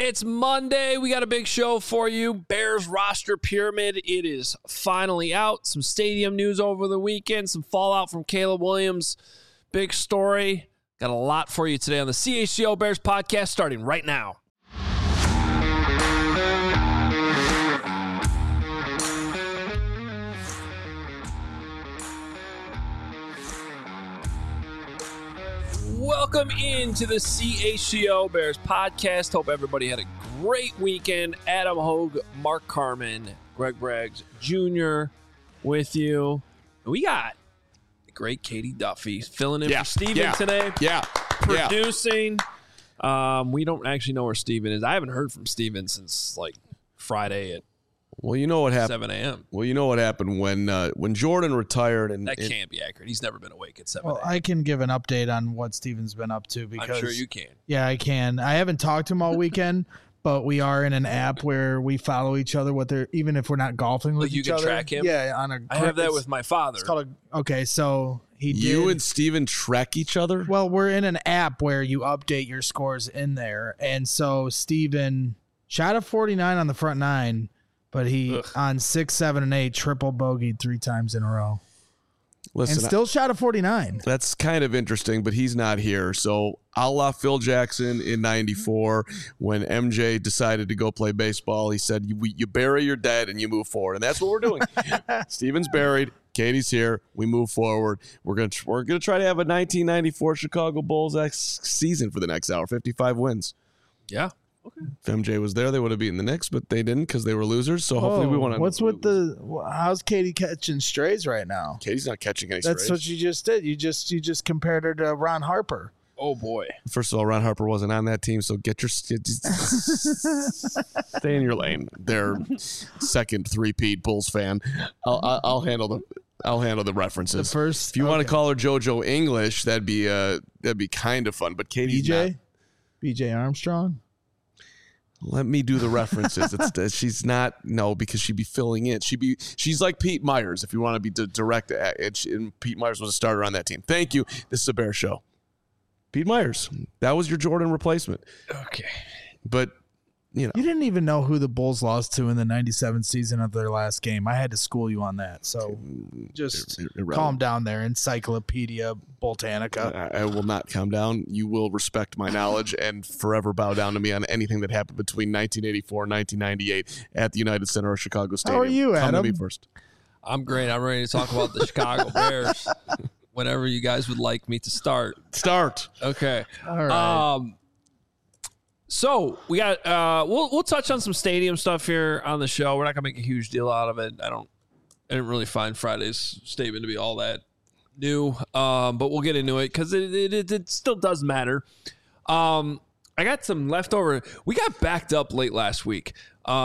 It's Monday. We got a big show for you. Bears roster pyramid. It is finally out. Some stadium news over the weekend. Some fallout from Caleb Williams. Big story. Got a lot for you today on the CHGO Bears podcast starting right now. Welcome into the CHGO Bears podcast. Hope everybody had a great weekend. Adam Hogue, Mark Carman, Greg Braggs Jr. with you. We got the great Katie Duffy filling in for Steven today. Producing. We don't actually know where Steven is. I haven't heard from Steven since like Friday at Well, you know what happened. 7 a.m. Well, you know what happened when Jordan retired, and that can't be accurate. He's never been awake at 7 a.m. Well, I can give an update on what Steven's been up to because I'm sure you can. Yeah, I can. I haven't talked to him all weekend, but we are in an app where we follow each other. Even if we're not golfing with each other, you can track him. Yeah, I have that with my father. It's called okay. So you and Steven track each other. Well, we're in an app where you update your scores in there, and so Steven shot a 49 on the front nine. But he, on 6, 7, and 8, triple bogeyed 3 times in a row. Listen, and still shot a 49. That's kind of interesting, but he's not here. So a la Phil Jackson in 94, when MJ decided to go play baseball, he said, you bury your dead and you move forward. And that's what we're doing. Steven's buried. Katie's here. We move forward. We're gonna try to have a 1994 Chicago Bulls season for the next hour, 55 wins. Yeah. Okay. If MJ was there, they would have beaten the Knicks, but they didn't because they were losers. So hopefully we want to. What's with how's Katie catching strays right now? Katie's not catching any strays. That's what you just did. You just compared her to Ron Harper. Oh boy! First of all, Ron Harper wasn't on that team, so get your stay in your lane. They're second three-peat Bulls fan. I'll handle the references. The first, if you want to call her JoJo English, that'd be kind of fun. But Katie's BJ Armstrong. Let me do the references. She's not because she'd be filling in. She's like Pete Myers if you want to be direct. And Pete Myers was a starter on that team. Thank you. This is a Bear show. Pete Myers, that was your Jordan replacement. Okay, but you didn't even know who the Bulls lost to in the '97 season of their last game. I had to school you on that, so just calm down there, Encyclopedia Britannica. I will not calm down. You will respect my knowledge and forever bow down to me on anything that happened between 1984 and 1998 at the United Center or Chicago Stadium. How are you, Adam? Come to me first. I'm great. I'm ready to talk about the Chicago Bears. Whenever you guys would like me to start. Okay. All right. So we got we'll touch on some stadium stuff here on the show. We're not gonna make a huge deal out of it. I didn't really find Friday's statement to be all that new, but we'll get into it because it still does matter. I got some leftover. We got backed up late last week.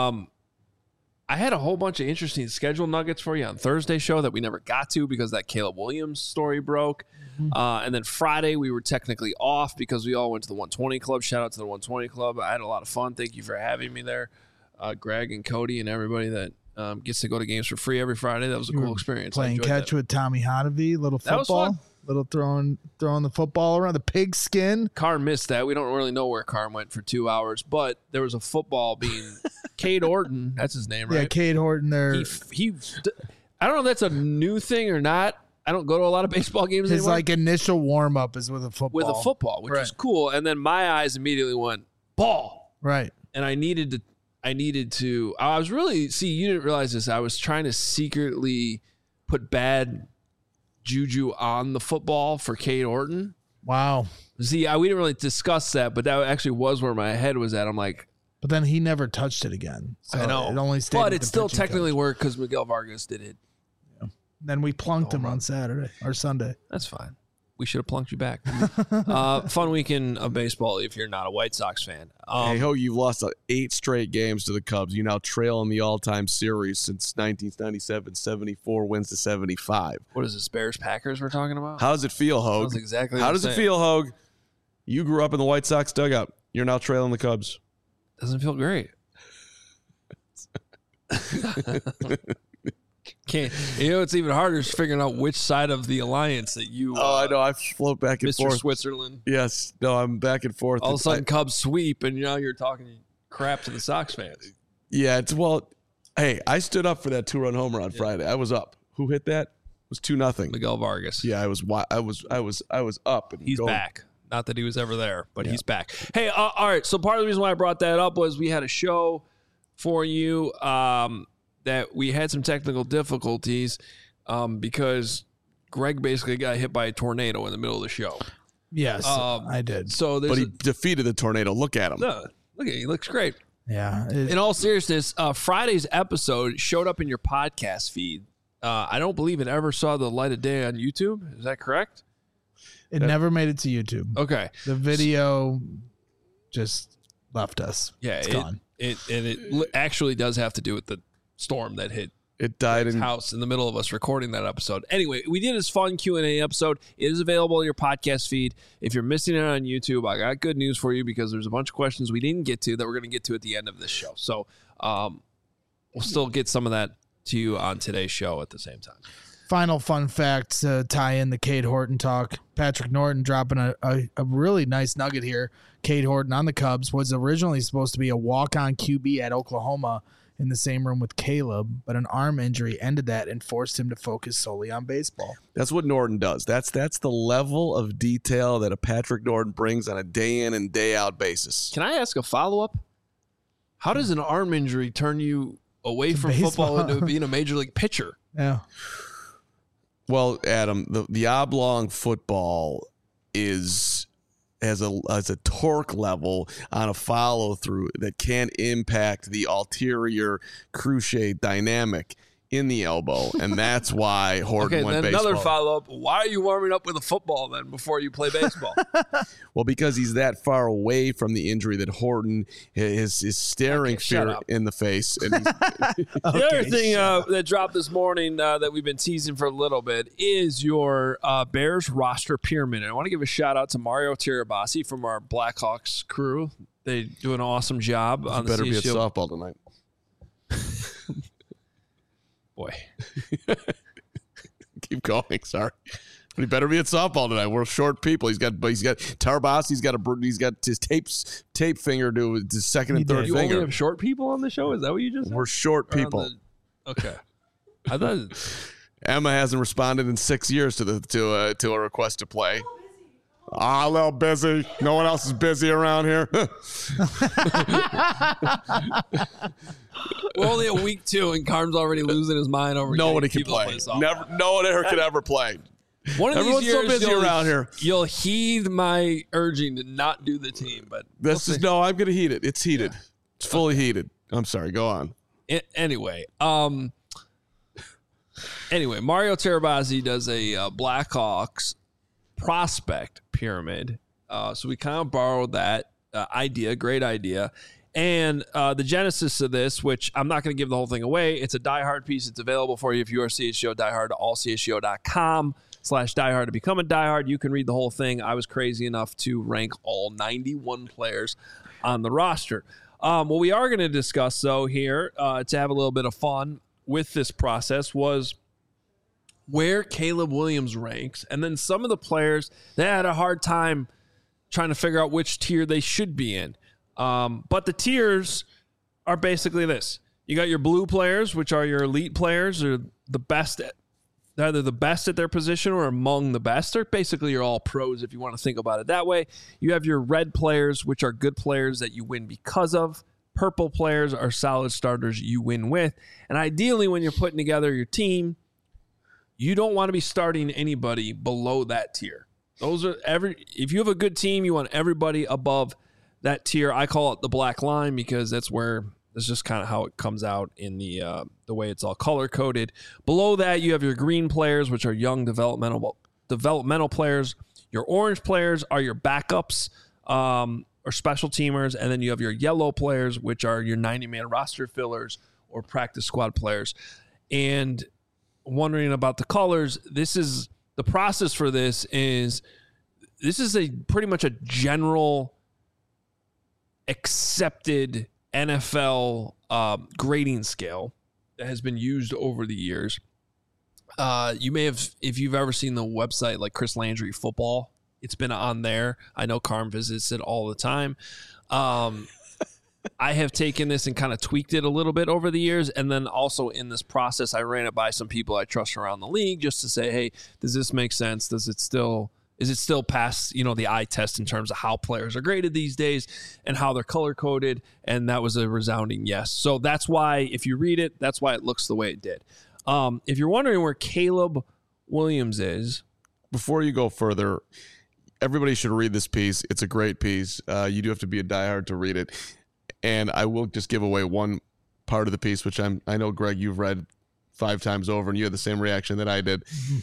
I had a whole bunch of interesting schedule nuggets for you on Thursday show that we never got to because that Caleb Williams story broke. And then Friday we were technically off because we all went to the 120 Club. Shout out to the 120 Club. I had a lot of fun. Thank you for having me there. Greg and Cody and everybody that gets to go to games for free every Friday. That was a cool experience. Playing catch with Tommy Hotovy, little football. That was fun. Little throwing the football around the pig skin. Carr missed that. We don't really know where Carr went for 2 hours, but there was a football being Cade Horton. That's his name, right? Yeah, Cade Horton there. He I don't know if that's a new thing or not. I don't go to a lot of baseball games His anymore. His initial warm-up is with a football. Which is cool. And then my eyes immediately went, ball. Right. And I needed to I was really, you didn't realize this. I was trying to secretly put bad juju on the football for Cade Horton. Wow. See, we didn't really discuss that, but that actually was where my head was at. I'm like, but then he never touched it again. So I know. It only stayed. But it still technically worked because Miguel Vargas did it. Yeah. Then we plunked him on Saturday or Sunday. That's fine. We should have plunked you back. Fun weekend of baseball if you're not a White Sox fan. You've lost 8 straight games to the Cubs. You now trail in the all-time series since 1997, 74 wins to 75. What is this, Bears-Packers we're talking about? How does it feel, Hogue? Sounds exactly How does it feel, Hogue? You grew up in the White Sox dugout. You're now trailing the Cubs. Doesn't feel great. Can't. It's even harder is figuring out which side of the alliance that you. I know. I float back and Mr. forth. Switzerland. Yes. No, I'm back and forth. All of a sudden, Cubs sweep, and now you're talking. crap to the Sox fans. Yeah, hey, I stood up for that 2-run homer on Friday. I was up. Who hit that? It was 2-0. Miguel Vargas. Yeah, I was up. And he's back. Not that he was ever there, but he's back. Hey, all right. So part of the reason why I brought that up was we had a show for you that we had some technical difficulties because Greg basically got hit by a tornado in the middle of the show. Yes, I did. But he defeated the tornado. Look at him. No, look at him. He looks great. Yeah. In all seriousness, Friday's episode showed up in your podcast feed. I don't believe it ever saw the light of day on YouTube. Is that correct? It never made it to YouTube. Okay. The video just left us. Yeah, it's gone. It actually does have to do with the storm that hit it died his house in the middle of us recording that episode. Anyway, we did this fun Q&A episode. It is available in your podcast feed. If you're missing it on YouTube, I got good news for you because there's a bunch of questions we didn't get to that we're going to get to at the end of this show. So we'll still get some of that to you on today's show at the same time. Final fun fact to tie in the Cade Horton talk. Patrick Norton dropping a really nice nugget here. Cade Horton on the Cubs was originally supposed to be a walk-on QB at Oklahoma in the same room with Caleb, but an arm injury ended that and forced him to focus solely on baseball. That's what Norton does. That's the level of detail that a Patrick Norton brings on a day in and day out basis. Can I ask a follow-up? How does an arm injury turn you away from football into being a major league pitcher? Yeah. Well, Adam, the oblong football has a torque level on a follow through that can impact the ulterior cruciate dynamic in the elbow, and that's why Horton went baseball. Another follow-up. Why are you warming up with a football then before you play baseball? Well, because he's that far away from the injury that Horton is staring fear in the face. And the other thing that dropped this morning that we've been teasing for a little bit is your Bears roster pyramid. And I want to give a shout-out to Mario Tirabassi from our Blackhawks crew. They do an awesome job on the CSU. Better be at softball tonight. Boy. Keep going. Sorry. But he better be at softball tonight. We're short people. He's got Tarbas. He's got his tape finger to his second and third finger. You only have short people on the show? Is that what you just said? We're short people. Okay. I thought Emma hasn't responded in 6 years to a request to play. A little busy. No one else is busy around here. We're only at week 2, and Carm's already losing his mind over. Nobody can play. No one ever could ever play. Everyone's so busy around here. You'll heed my urging to not do the team, but I'm going to heat it. It's heated. Yeah. It's fully heated. I'm sorry. Go on. Anyway, Mario Tirabassi does a Blackhawks prospect pyramid. So we kind of borrowed that idea. Great idea. And the genesis of this, which I'm not going to give the whole thing away, it's a Die Hard piece. It's available for you if you are CSGO diehard, allcsgo.com/diehard to become a diehard. You can read the whole thing. I was crazy enough to rank all 91 players on the roster. What we are going to discuss, though, here to have a little bit of fun with this process was where Caleb Williams ranks, and then some of the players that had a hard time trying to figure out which tier they should be in. But the tiers are basically this. You got your blue players, which are your elite players, or the best at, either the best at their position or among the best. They're basically you're all pros if you want to think about it that way. You have your red players, which are good players that you win because of. Purple players are solid starters you win with. And ideally, when you're putting together your team, you don't want to be starting anybody below that tier. If you have a good team, you want everybody above that tier. I call it the black line because that's just kind of how it comes out in the way it's all color coded. Below that, you have your green players, which are young developmental players. Your orange players are your backups or special teamers, and then you have your yellow players, which are your 90-man roster fillers or practice squad players. And wondering about the colors, this is the process for this is a pretty much a general accepted NFL grading scale that has been used over the years. You may have, if you've ever seen the website like Chris Landry Football, it's been on there. I know Carm visits it all the time. I have taken this and kind of tweaked it a little bit over the years. And then also in this process, I ran it by some people I trust around the league just to say, hey, does this make sense? Is it still past, the eye test in terms of how players are graded these days and how they're color coded? And that was a resounding yes. So that's why, if you read it, that's why it looks the way it did. If you're wondering where Caleb Williams is. Before you go further, everybody should read this piece. It's a great piece. You do have to be a diehard to read it. And I will just give away one part of the piece, which I know, Greg, you've read 5 times over, and you had the same reaction that I did.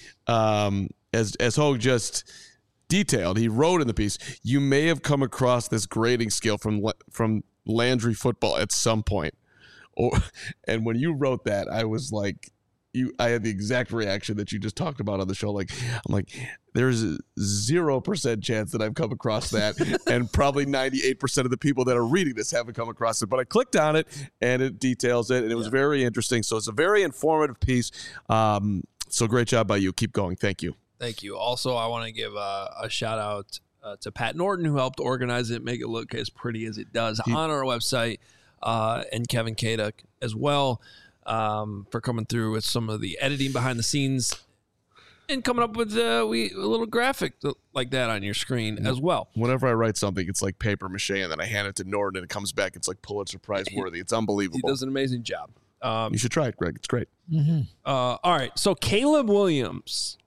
As Hogue just detailed, he wrote in the piece, you may have come across this grading scale from Landry Football at some point. And when you wrote that, I was like, I had the exact reaction that you just talked about on the show. I'm like, there's a 0% chance that I've come across that. And probably 98% of the people that are reading this haven't come across it. But I clicked on it and it details it. And it was very interesting. So it's a very informative piece. So great job by you. Keep going. Thank you. Thank you. Also, I want to give a shout out to Pat Norton, who helped organize it, make it look as pretty as it does on our website, and Kevin Kaduk as well. For coming through with some of the editing behind the scenes and coming up with a little graphic like that on your screen as well. Whenever I write something, it's like paper mache, and then I hand it to Norton, and it comes back. It's like Pulitzer Prize worthy. It's unbelievable. He does an amazing job. You should try it, Greg. It's great. Mm-hmm. All right. So Caleb Williams,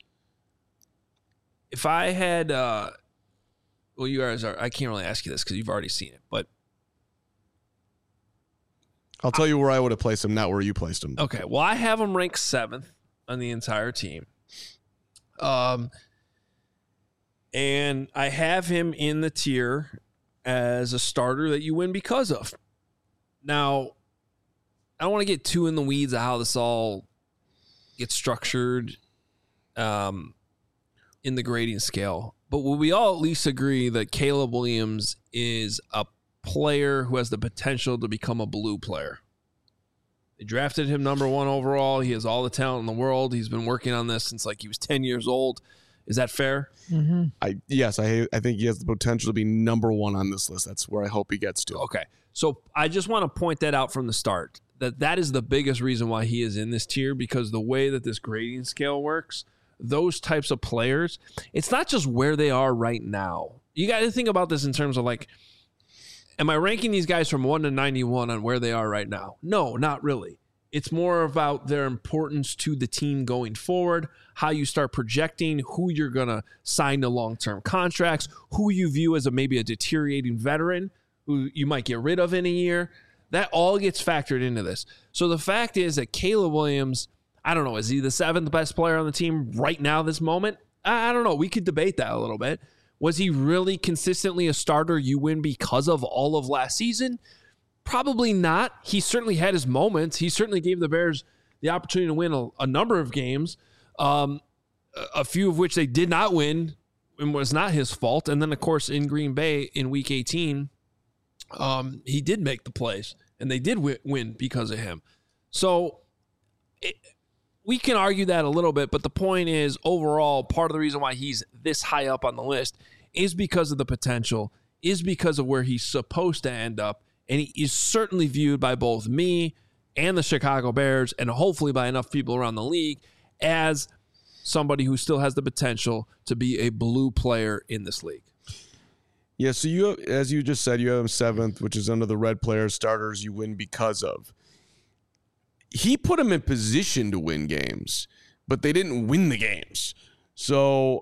if I had, you guys are, I can't really ask you this because you've already seen it, but I'll tell you where I would have placed him, not where you placed him. Okay. Well, I have him ranked 7th on the entire team. And I have him in the tier as a starter that you win because of. Now, I don't want to get too in the weeds of how this all gets structured in the grading scale. But will we all at least agree that Caleb Williams is a player who has the potential to become a blue player? They drafted him number 1 overall. He has all the talent in the world. He's been working on this since he was 10 years old. Is that fair? Mm-hmm. Yes, I think he has the potential to be number 1 on this list. That's where I hope he gets to. Okay. So I just want to point that out from the start, that is the biggest reason why he is in this tier, because the way that this grading scale works, those types of players, it's not just where they are right now. You got to think about this in terms of am I ranking these guys from 1 to 91 on where they are right now? No, not really. It's more about their importance to the team going forward, how you start projecting who you're going to sign to long-term contracts, who you view as maybe a deteriorating veteran who you might get rid of in a year. That all gets factored into this. So the fact is that Caleb Williams, I don't know, is he the 7th best player on the team right now, this moment? I don't know. We could debate that a little bit. Was he really consistently a starter you win because of all of last season? Probably not. He certainly had his moments. He certainly gave the Bears the opportunity to win a number of games, a few of which they did not win and was not his fault. And then, of course, in Green Bay in Week 18, he did make the plays, and they did win because of him. So we can argue that a little bit, but the point is, overall, part of the reason why he's this high up on the list is because of the potential, is because of where he's supposed to end up, and he is certainly viewed by both me and the Chicago Bears, and hopefully by enough people around the league, as somebody who still has the potential to be a blue player in this league. Yeah, so you, as you just said, you have him 7th, which is under the red players, starters you win because of. He put him in position to win games, but they didn't win the games. So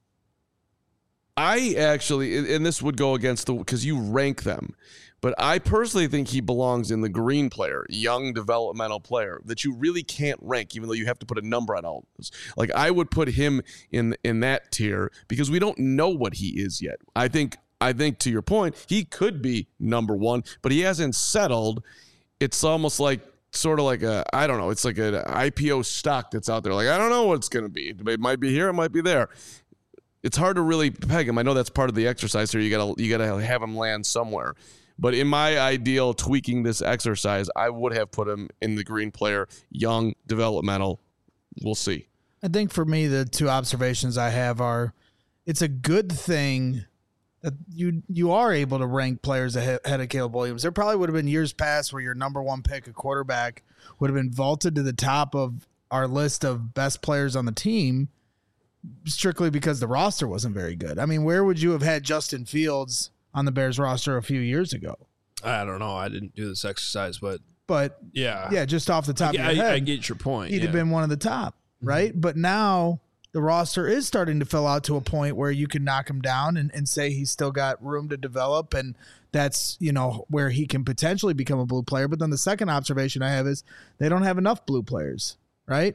I actually, and this would go against because you rank them, but I personally think he belongs in the green player, young developmental player, that you really can't rank, even though you have to put a number on all those. I would put him in that tier because we don't know what he is yet. I think to your point, he could be number 1, but he hasn't settled. It's almost sort of like I don't know. It's like an IPO stock that's out there. I don't know what it's going to be. It might be here. It might be there. It's hard to really peg him. I know that's part of the exercise here. You gotta have him land somewhere. But in my ideal tweaking this exercise, I would have put him in the green player, young, developmental. We'll see. I think for me, the 2 observations I have are, it's a good thing that you are able to rank players ahead of Caleb Williams. There probably would have been years past where your number one pick, a quarterback, would have been vaulted to the top of our list of best players on the team strictly because the roster wasn't very good. I mean, where would you have had Justin Fields on the Bears roster a few years ago? I don't know. I didn't do this exercise, but yeah, just off the top of your head, I get your point. He'd have been one of the top, right? But now the roster is starting to fill out to a point where you can knock him down and say he's still got room to develop, and that's, where he can potentially become a blue player. But then the second observation I have is they don't have enough blue players, right?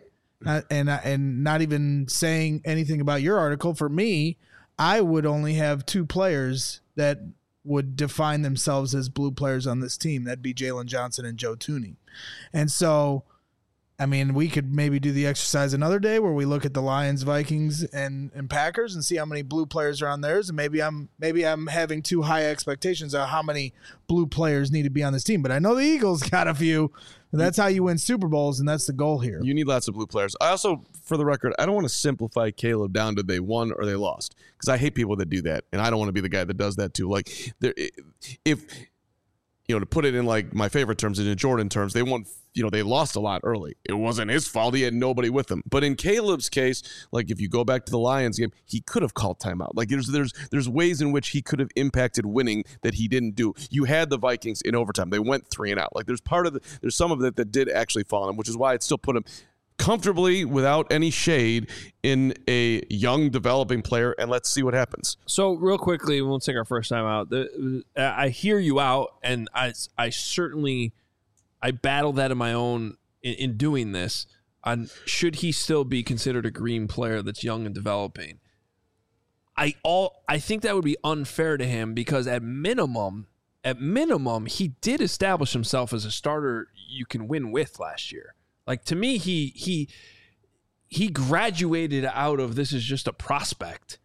And not even saying anything about your article, for me, I would only have two players that would define themselves as blue players on this team. That'd be Jalen Johnson and Joe Thuney. And so, I mean, we could maybe do the exercise another day where we look at the Lions, Vikings, and Packers and see how many blue players are on theirs. And maybe I'm having too high expectations of how many blue players need to be on this team. But I know the Eagles got a few. And that's how you win Super Bowls, and that's the goal here. You need lots of blue players. I also, for the record, I don't want to simplify Caleb down to they won or they lost, because I hate people that do that, and I don't want to be the guy that does that too. Like, if to put it in like my favorite terms, in Jordan terms, they won. They lost a lot early. It wasn't his fault. He had nobody with him. But in Caleb's case, like if you go back to the Lions game, he could have called timeout. Like there's ways in which he could have impacted winning that he didn't do. You had the Vikings in overtime. They went 3 and out. Like there's some of it that did actually fall on him, which is why I'd still put him comfortably, without any shade, in a young developing player, and let's see what happens. So real quickly, we'll take our first time out. I hear you out, and I certainly battle that in my own in doing this. On should he still be considered a green player that's young and developing? I think that would be unfair to him, because at minimum, he did establish himself as a starter you can win with last year. Like, to me, he graduated out of this is just a prospect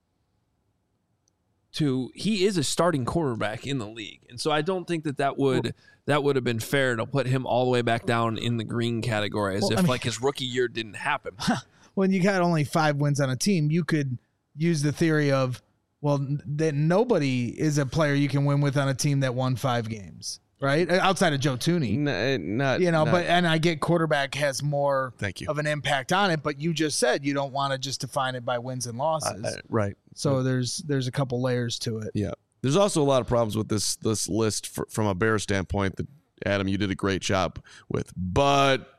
to he is a starting quarterback in the league. And so I don't think that would have been fair to put him all the way back down in the green category like his rookie year didn't happen. When you got only 5 wins on a team, you could use the theory of, well, that nobody is a player you can win with on a team that won 5 games. Right, outside of Joe Thuney, and I get quarterback has more of an impact on it, but you just said you don't want to just define it by wins and losses, right? So there's a couple layers to it. Yeah, there's also a lot of problems with this list from a Bears standpoint that Adam, you did a great job with. But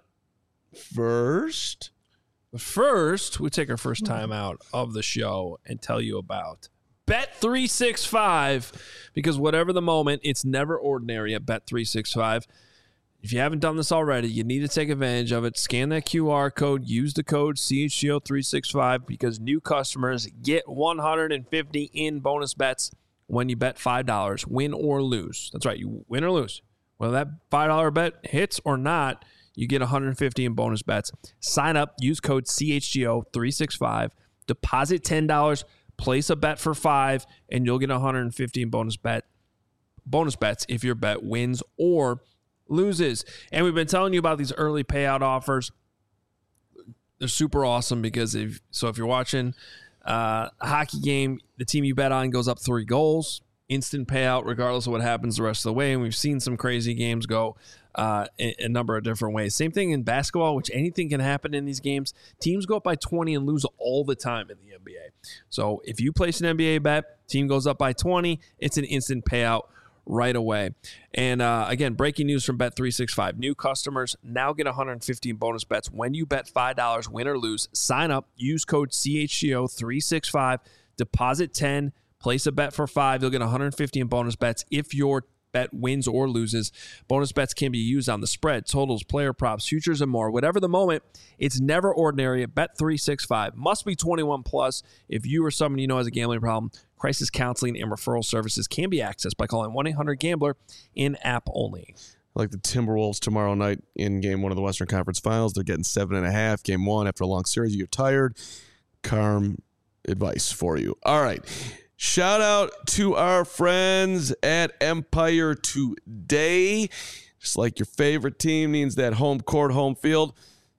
first, we take our first time out of the show and tell you about Bet365, because whatever the moment, it's never ordinary at Bet365. If you haven't done this already, you need to take advantage of it. Scan that QR code, use the code CHGO365, because new customers get 150 in bonus bets when you bet $5, win or lose. That's right, you win or lose. Whether that $5 bet hits or not, you get 150 in bonus bets. Sign up, use code CHGO365, deposit $10, place a bet for $5, and you'll get 150 in bonus bets if your bet wins or loses. And we've been telling you about these early payout offers. They're super awesome, because if you're watching a hockey game, the team you bet on goes up 3 goals, instant payout regardless of what happens the rest of the way. And we've seen some crazy games go a number of different ways. Same thing in basketball, which anything can happen in these games. Teams go up by 20 and lose all the time in the NBA. So if you place an NBA bet, team goes up by 20, it's an instant payout right away. And again, breaking news from Bet365. New customers now get 150 in bonus bets when you bet $5, win or lose. Sign up, use code CHGO365, deposit 10, place a bet for $5. You'll get 150 in bonus bets if your bet wins or loses. Bonus bets can be used on the spread, totals, player props, futures, and more. Whatever the moment, it's never ordinary at Bet365. Must be 21 plus. If you or someone you know has a gambling problem, crisis counseling and referral services can be accessed by calling 1-800-GAMBLER in-app only. Like the Timberwolves tomorrow night in Game 1 of the Western Conference Finals. They're getting 7.5. Game 1, after a long series, you get tired. Calm advice for you. All right. Shout out to our friends at Empire Today. Just like your favorite team needs that home court, home field,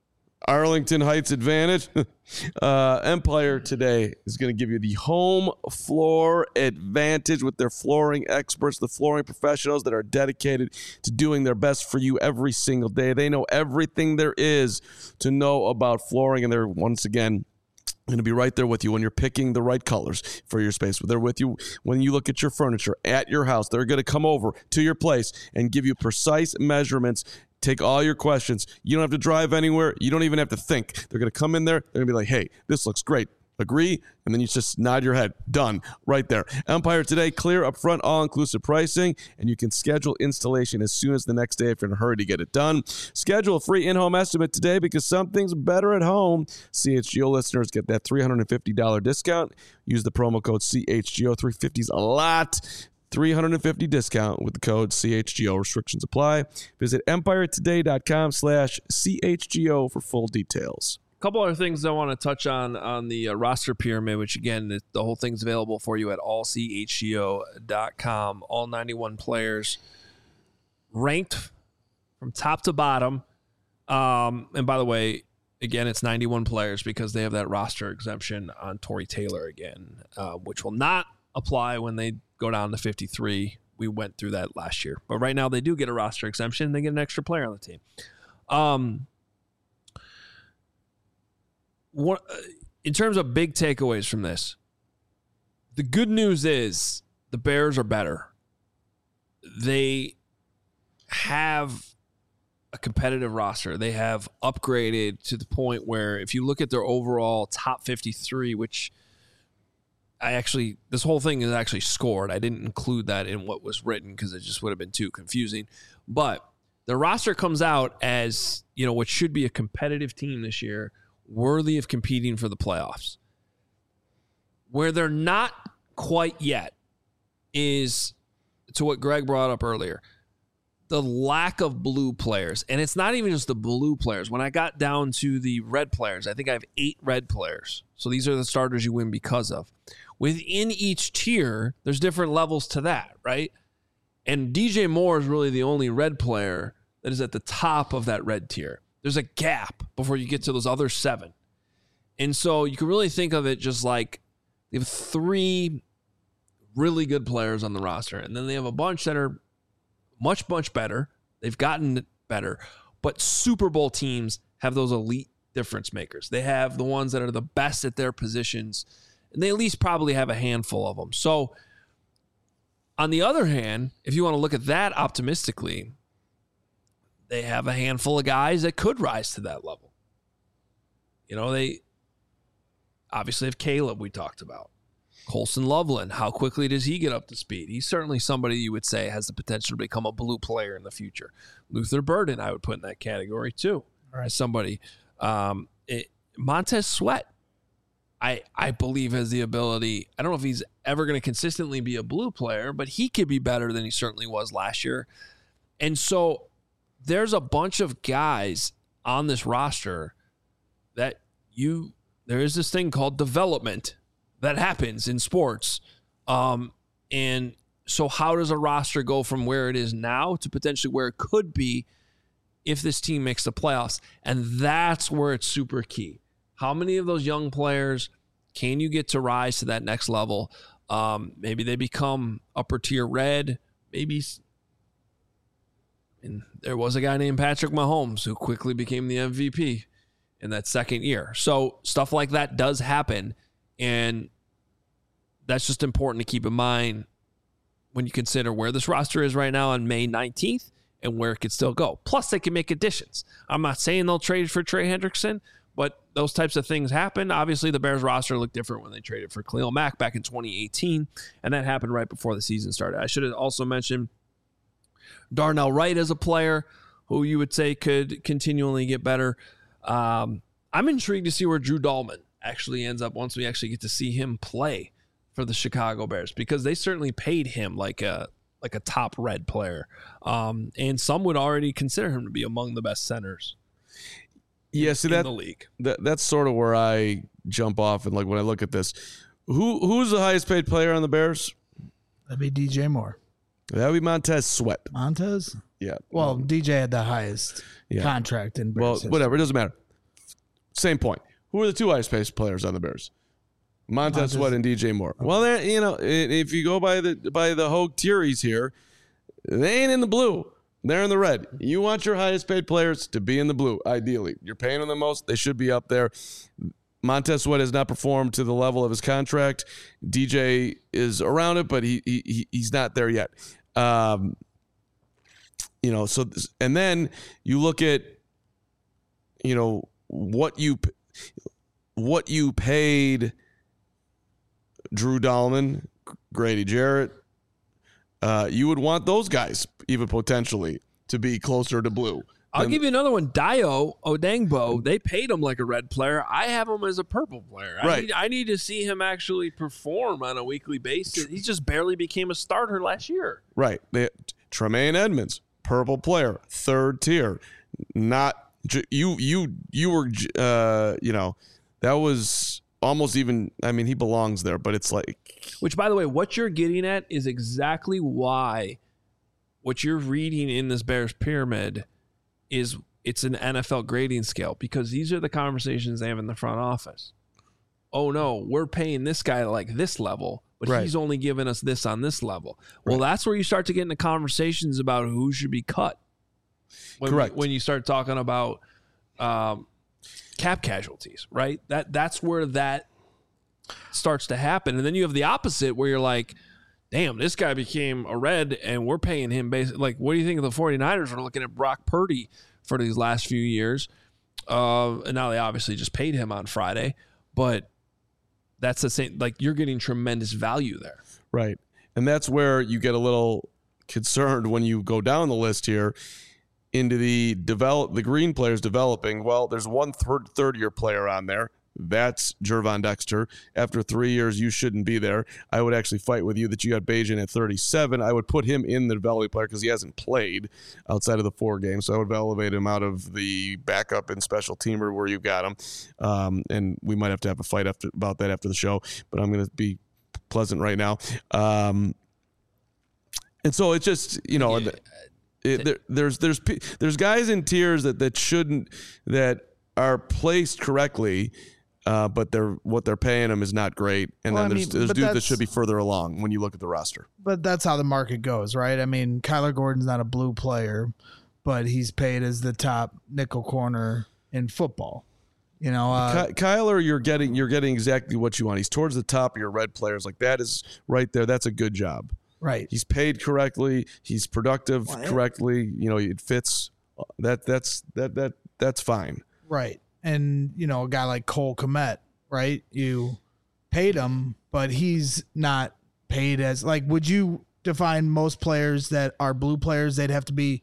Arlington Heights advantage. Empire today is going to give you the home floor advantage with their flooring experts, the flooring professionals that are dedicated to doing their best for you every single day. They know everything there is to know about flooring, and they're, once again, going to be right there with you when you're picking the right colors for your space. They're with you when you look at your furniture at your house. They're going to come over to your place and give you precise measurements, take all your questions. You don't have to drive anywhere. You don't even have to think. They're going to come in there. They're going to be like, hey, this looks great. Agree? And then you just nod your head. Done. Right there. Empire today, clear upfront, all-inclusive pricing, and you can schedule installation as soon as the next day if you're in a hurry to get it done. Schedule a free in-home estimate today because something's better at home. CHGO listeners get that $350 discount. Use the promo code CHGO. $350 is a lot. $350 discount with the code CHGO. Restrictions apply. Visit empiretoday.com/CHGO for full details. A couple other things I want to touch on the roster pyramid, which, again, the whole thing's available for you at allchgo.com. All 91 players ranked from top to bottom. And by the way, again, it's 91 players because they have that roster exemption on Tory Taylor again, which will not apply when they go down to 53. We went through that last year. But right now they do get a roster exemption. They get an extra player on the team. In terms of big takeaways from this, the good news is the Bears are better. They have a competitive roster. They have upgraded to the point where if you look at their overall top 53, which this whole thing is actually scored. I didn't include that in what was written because it just would have been too confusing. But the roster comes out as, what should be a competitive team this year, worthy of competing for the playoffs. Where they're not quite yet is, to what Greg brought up earlier, the lack of blue players. And it's not even just the blue players. When I got down to the red players, I think I have 8 red players. So these are the starters you win because of. Within each tier, there's different levels to that, right? And DJ Moore is really the only red player that is at the top of that red tier. There's a gap before you get to those other 7. And so you can really think of it just like they have 3 really good players on the roster, and then they have a bunch that are much, much better. They've gotten better. But Super Bowl teams have those elite difference makers. They have the ones that are the best at their positions, and they at least probably have a handful of them. So on the other hand, if you want to look at that optimistically, they have a handful of guys that could rise to that level. They obviously have Caleb, we talked about. Colson Loveland, how quickly does he get up to speed? He's certainly somebody you would say has the potential to become a blue player in the future. Luther Burden, I would put in that category too. Right. As somebody. Montez Sweat, I believe has the ability. I don't know if he's ever going to consistently be a blue player, but he could be better than he certainly was last year. And so there's a bunch of guys on this roster that there is this thing called development that happens in sports. And so how does a roster go from where it is now to potentially where it could be if this team makes the playoffs? And that's where it's super key. How many of those young players can you get to rise to that next level? Maybe they become upper tier red. Maybe. And there was a guy named Patrick Mahomes who quickly became the MVP in that second year. So stuff like that does happen. And that's just important to keep in mind when you consider where this roster is right now on May 19th and where it could still go. Plus, they can make additions. I'm not saying they'll trade for Trey Hendrickson, but those types of things happen. Obviously, the Bears roster looked different when they traded for Khalil Mack back in 2018, and that happened right before the season started. I should have also mentioned Darnell Wright as a player who you would say could continually get better. I'm intrigued to see where Drew Dahlman actually ends up once we actually get to see him play for the Chicago Bears, because they certainly paid him like a top red player. And some would already consider him to be among the best centers in the league. That's sort of where I jump off. And like when I look at this, who's the highest paid player on the Bears? That'd be DJ Moore. That would be Montez Sweat. Montez? Yeah. Well, DJ had the highest contract in Bears history. Whatever. It doesn't matter. same point. Who are the two highest paid players on the Bears? Montez Sweat and DJ Moore. Okay. Well, if you go by the Hogue theories here, they ain't in the blue. They're in the red. You want your highest paid players to be in the blue, ideally. You're paying them the most. They should be up there. Montez Sweat has not performed to the level of his contract. DJ is around it, but he's not there yet. And then you look at, what you paid Drew Dahlman, Grady Jarrett. You would want those guys even potentially to be closer to blue. I'll give you another one. Dio Odangbo. They paid him like a red player. I have him as a purple player. Right. I need to see him actually perform on a weekly basis. He just barely became a starter last year. Right. Tremaine Edmonds, purple player, third tier. Not you were that was almost even. I mean, he belongs there, but it's like. Which, by the way, what you're getting at is exactly why what you're reading in this Bears pyramid is it's an NFL grading scale, because these are the conversations they have in the front office. Oh, no, we're paying this guy like this level, but right. He's only giving us this on this level. Well, that's where you start to get into conversations about who should be cut. Correct. When you start talking about cap casualties, right? That's where that starts to happen. And then you have the opposite where you're like, damn, this guy became a red and we're paying him basically. Like, what do you think of the 49ers are looking at Brock Purdy for these last few years? And now they obviously just paid him on Friday, but that's the same. Like, you're getting tremendous value there. Right. And that's where you get a little concerned when you go down the list here into the green players developing. Well, there's one third-year player on there. That's Gervon Dexter. After 3 years, you shouldn't be there. I would actually fight with you that you got Bajan at 37. I would put him in the developing player because he hasn't played outside of the 4 games. So I would elevate him out of the backup and special teamer where you got him. And we might have to have a fight about that after the show, but I'm going to be pleasant right now. And so it's just, there's guys in tiers that are placed correctly. But what they're paying them is not great. And then there's dudes that should be further along when you look at the roster. But that's how the market goes, right? I mean, Kyler Gordon's not a blue player, but he's paid as the top nickel corner in football. Kyler, you're getting exactly what you want. He's towards the top of your red players. Like, that is right there. That's a good job. Right. He's paid correctly. He's productive correctly. It fits. That's fine. Right. And, a guy like Cole Kmet, right? You paid him, but he's not paid as, like, would you define most players that are blue players, they'd have to be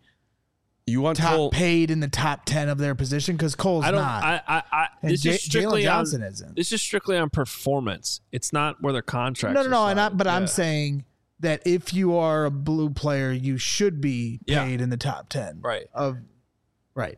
paid in the top 10 of their position? Because Cole's not. Jalen Johnson isn't. This is strictly on performance. It's not where their contracts No. I'm saying that if you are a blue player, you should be paid in the top 10. Right. Right.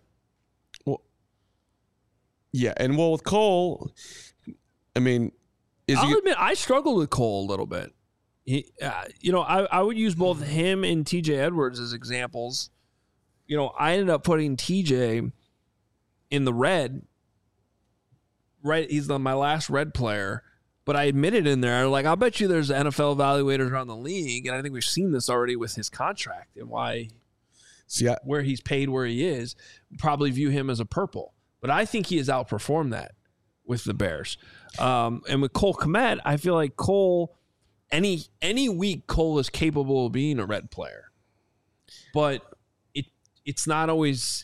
Yeah, and with Cole, I mean, I'll admit I struggled with Cole a little bit. I would use both him and TJ Edwards as examples. I ended up putting TJ in the red. Right, he's my last red player, but I admitted in there, like, I'll bet you there's NFL evaluators around the league, and I think we've seen this already with his contract and why, where he's paid where he is, probably view him as a purple. But I think he has outperformed that with the Bears. And with Cole Kmet, I feel like Cole, any week, Cole is capable of being a red player. But it's not always.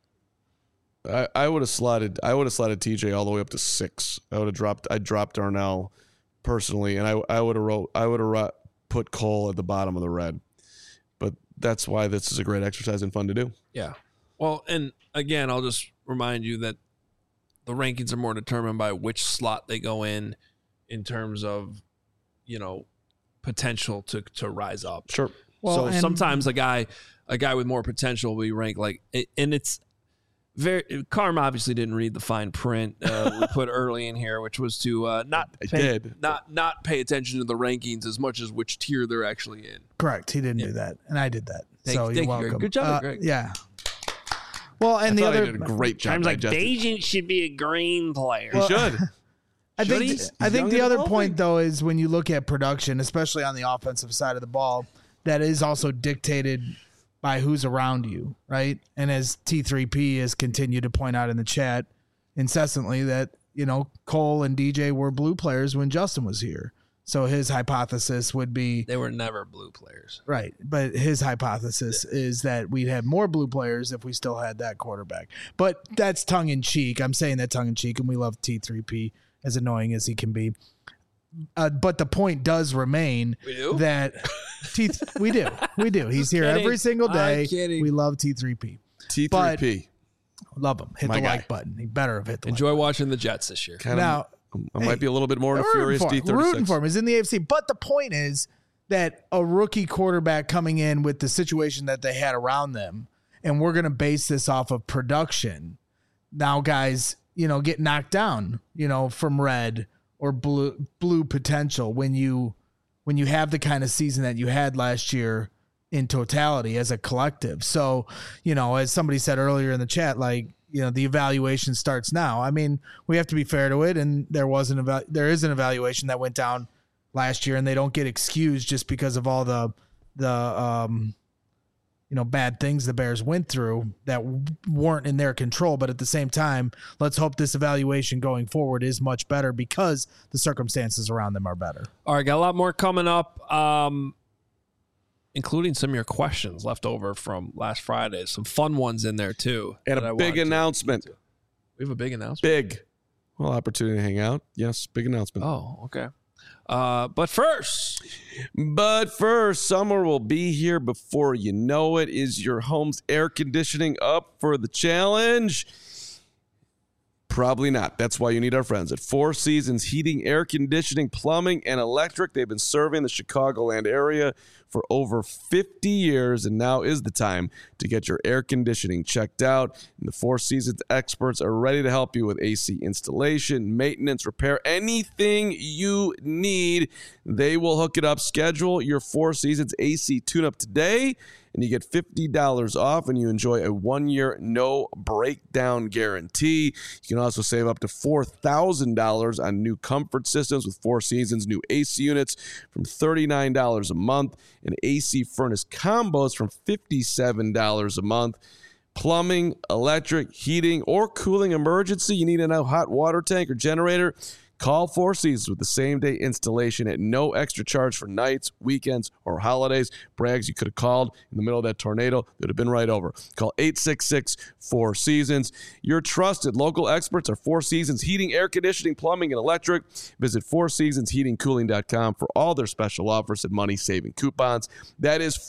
I would have slotted TJ all the way up to 6. I dropped Darnell personally, and I would have put Cole at the bottom of the red. But that's why this is a great exercise and fun to do. Yeah. Well, and again, I'll just remind you that the rankings are more determined by which slot they go in terms of, potential to rise up. Sure. Well, so sometimes a guy with more potential will be ranked and it's very. Carm obviously didn't read the fine print we put early in here, which was to not pay attention to the rankings as much as which tier they're actually in. Correct. He didn't do that, and I did that. You're welcome. Greg. Good job, Greg. Yeah. Well, and the thought other he did a great job. Times like digesting. Bajan should be a green player. He should. I think He's the young and other developing. point though is when you look at production, especially on the offensive side of the ball, that is also dictated by who's around you, right? And as T3P has continued to point out in the chat incessantly that, Cole and DJ were blue players when Justin was here. So his hypothesis would be They were never blue players. right, but his hypothesis is that we'd have more blue players if we still had that quarterback. But that's tongue in cheek. I'm saying that tongue in cheek, and we love T3P as annoying as he can be. But the point does remain We do? that we do. He's here kidding. every single day. I'm kidding. We love T3P. T3P. Love him. Hit My the guy. like button. He better have hit the Enjoy like watching the Jets this year. Kind Now, of. I might be a little bit more button. of a furious We're rooting for D36. him. He's in the AFC. But the point is that a rookie quarterback coming in with the situation that they had around them, and we're going to base this off of production. Now, guys, get knocked down, from red or blue potential when you have the kind of season that you had last year in totality as a collective. So, as somebody said earlier in the chat, the evaluation starts now. I mean, we have to be fair to it, and there is an evaluation that went down last year, and they don't get excused just because of all the bad things the Bears went through that weren't in their control. But at the same time, let's hope this evaluation going forward is much better because the circumstances around them are better. All right, got a lot more coming up, including some of your questions left over from last Friday. Some fun ones in there, too. And that I a big wanted to- announcement. We have a big announcement? Big. Well, opportunity to hang out. Yes, big announcement. Oh, okay. But first, summer will be here before you know it. Is your home's air conditioning up for the challenge? Probably not. That's why you need our friends at Four Seasons Heating, Air Conditioning, Plumbing, and Electric. They've been serving the Chicagoland area for over 50 years, and now is the time to get your air conditioning checked out. And the Four Seasons experts are ready to help you with AC installation, maintenance, repair, anything you need. They will hook it up. Schedule your Four Seasons AC tune-up today, and you get $50 off, and you enjoy a 1-year no breakdown guarantee. You can also save up to $4,000 on new comfort systems with Four Seasons new AC units from $39 a month, and AC furnace combos from $57 a month. Plumbing, electric, heating, or cooling emergency. You need a new hot water tank or generator. Call Four Seasons with the same-day installation at no extra charge for nights, weekends, or holidays. Braggs, you could have called in the middle of that tornado. It would have been right over. Call 866-4Seasons. Your trusted local experts are Four Seasons Heating, Air Conditioning, Plumbing, and Electric. Visit FourSeasonsHeatingCooling.com for all their special offers and money-saving coupons. That is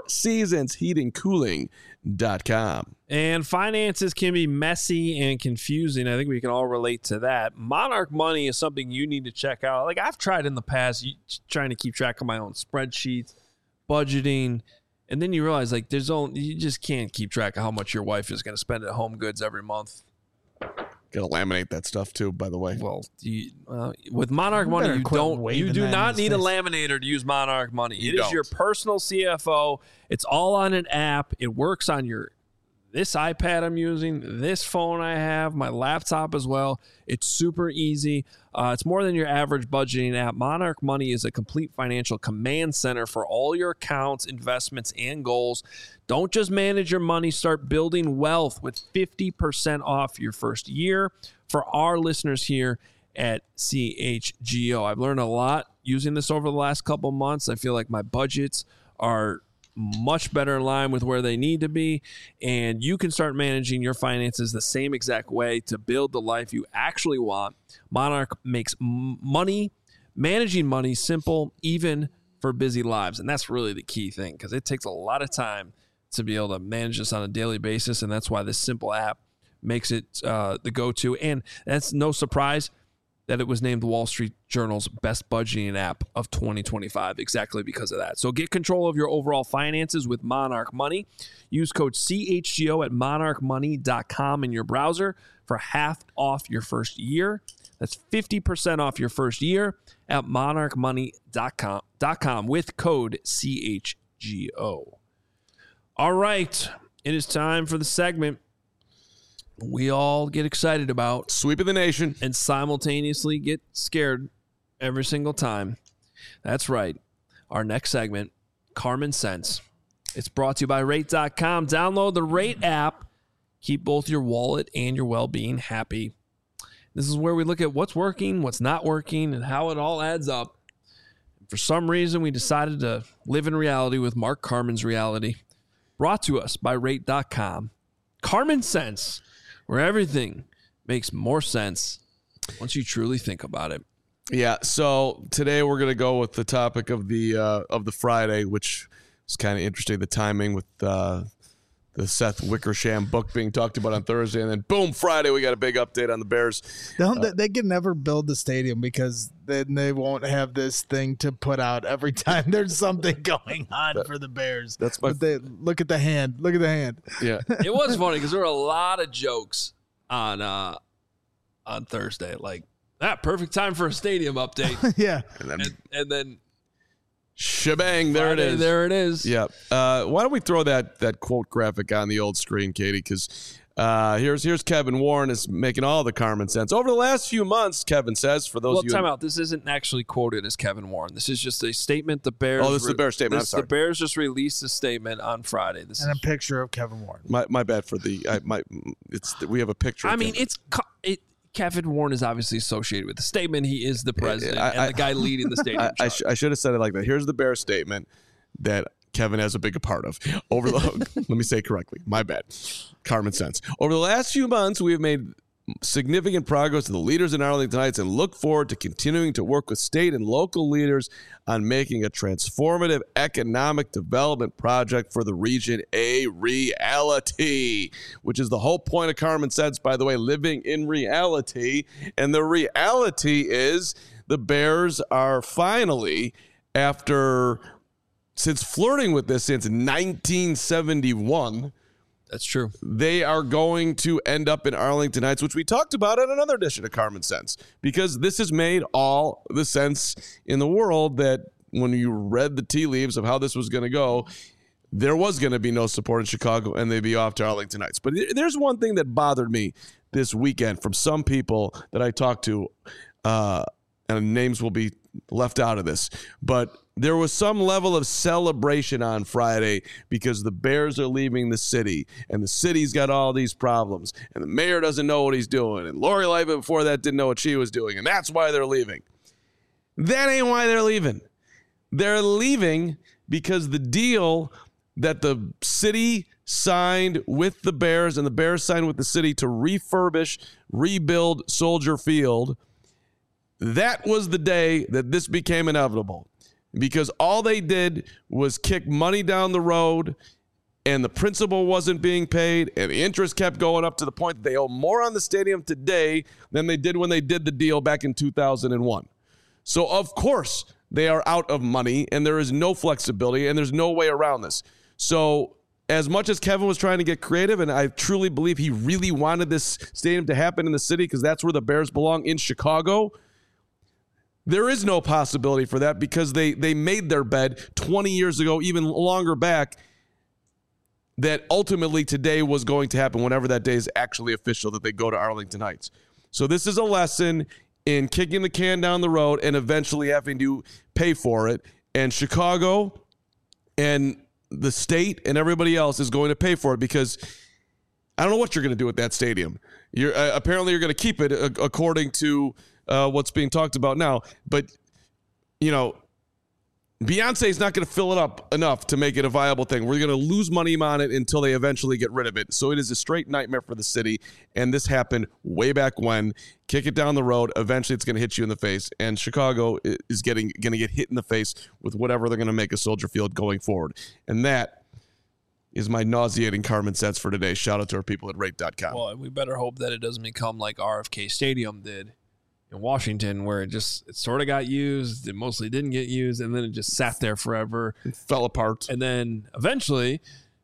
FourSeasonsHeatingCooling.com. and finances can be messy and confusing. I think we can all relate to that. Monarch Money is something you need to check out. Like I've tried in the past, trying to keep track of my own spreadsheets, budgeting, and then you realize like you just can't keep track of how much your wife is going to spend at Home Goods every month. Got to laminate that stuff too, by the way. Well, with Monarch Money, better you quit don't. waving You do that in not his need a face. laminator to use Monarch Money. You It is don't. your personal CFO. It's all on an app. It works on this iPad I'm using, this phone I have, my laptop as well. It's super easy. It's more than your average budgeting app. Monarch Money is a complete financial command center for all your accounts, investments, and goals. Don't just manage your money. Start building wealth with 50% off your first year. For our listeners here at CHGO, I've learned a lot using this over the last couple months. I feel like my budgets are much better in line with where they need to be, and you can start managing your finances the same exact way to build the life you actually want. Monarch makes managing money simple, even for busy lives, and that's really the key thing because it takes a lot of time to be able to manage this on a daily basis, and that's why this simple app makes it the go-to. And that's no surprise that it was named the Wall Street Journal's best budgeting app of 2025, exactly because of that. So get control of your overall finances with Monarch Money. Use code CHGO at monarchmoney.com in your browser for half off your first year. That's 50% off your first year at monarchmoney.com with code CHGO. All right, it is time for the segment we all get excited about Sweep of the nation. and simultaneously get scared every single time. That's right. Our next segment, Carmen Sense. It's brought to you by Rate.com. Download the Rate app. Keep both your wallet and your well-being happy. This is where we look at what's working, what's not working, and how it all adds up. For some reason, we decided to live in reality with Mark Carmen's reality. Brought to us by Rate.com. Carmen Sense, where everything makes more sense once you truly think about it. Yeah, so today we're going to go with the topic of the Friday, which is kind of interesting, the timing with the Seth Wickersham book being talked about on Thursday, and then boom, Friday we got a big update on the Bears. They can never build the stadium because then they won't have this thing to put out every time there's something going on for the Bears. That's my. Look at the hand. Look at the hand. Yeah, It was funny because there were a lot of jokes on Thursday, like perfect time for a stadium update, Yeah. and then shebang, there Friday, it is. There it is. Yeah. Why don't we throw that quote graphic on the old screen, Katie? Because here's Kevin Warren is making all the Carmen sense. Over the last few months, Kevin says, for those Well, of you... time out. This isn't actually quoted as Kevin Warren. This is just a statement the Bears... Oh, this is the Bears statement. I'm sorry. The Bears just released a statement on Friday. This And is, a picture of Kevin Warren. My bad for we have a picture. I of mean, Kevin. Kevin Warren is obviously associated with the statement. He is the president and the guy leading the stadium. I should have said it like that. Here's the Bears statement that Kevin has a big part of. Let me say it correctly. My bad. Carmen sense. Over the last few months, we have made significant progress with the leaders in Arlington Heights and look forward to continuing to work with state and local leaders on making a transformative economic development project for the region a reality, which is the whole point of Carmen sense, by the way, living in reality. And the reality is the Bears are finally, since flirting with this since 1971, That's true. they are going to end up in Arlington Heights, which we talked about in another edition of Carmen Sense, because this has made all the sense in the world that when you read the tea leaves of how this was going to go, there was going to be no support in Chicago and they'd be off to Arlington Heights. But there's one thing that bothered me this weekend from some people that I talked to, and names will be left out of this, but there was some level of celebration on Friday because the Bears are leaving the city and the city's got all these problems and the mayor doesn't know what he's doing and Lori Lightfoot before that didn't know what she was doing and that's why they're leaving. That ain't why they're leaving. They're leaving because the deal that the city signed with the Bears and the Bears signed with the city to rebuild Soldier Field, that was the day that this became inevitable. Because all they did was kick money down the road and the principal wasn't being paid and the interest kept going up to the point that they owe more on the stadium today than they did when they did the deal back in 2001. So, of course, they are out of money and there is no flexibility and there's no way around this. So, as much as Kevin was trying to get creative, and I truly believe he really wanted this stadium to happen in the city because that's where the Bears belong, in Chicago, there is no possibility for that because they made their bed 20 years ago, even longer back, that ultimately today was going to happen whenever that day is actually official, that they go to Arlington Heights. So this is a lesson in kicking the can down the road and eventually having to pay for it. And Chicago and the state and everybody else is going to pay for it because I don't know what you're going to do with that stadium. Apparently you're going to keep it according to what's being talked about now. But, you know, Beyonce is not going to fill it up enough to make it a viable thing. We're going to lose money on it until they eventually get rid of it. So it is a straight nightmare for the city. And this happened way back when. Kick it down the road. Eventually it's going to hit you in the face. And Chicago is going to get hit in the face with whatever they're going to make a Soldier Field going forward. And that is my nauseating Carmen sense for today. Shout out to our people at Rate.com. Well, we better hope that it doesn't become like RFK Stadium did in Washington, where it sort of got used, it mostly didn't get used, and then it just sat there forever. It fell apart. And then eventually,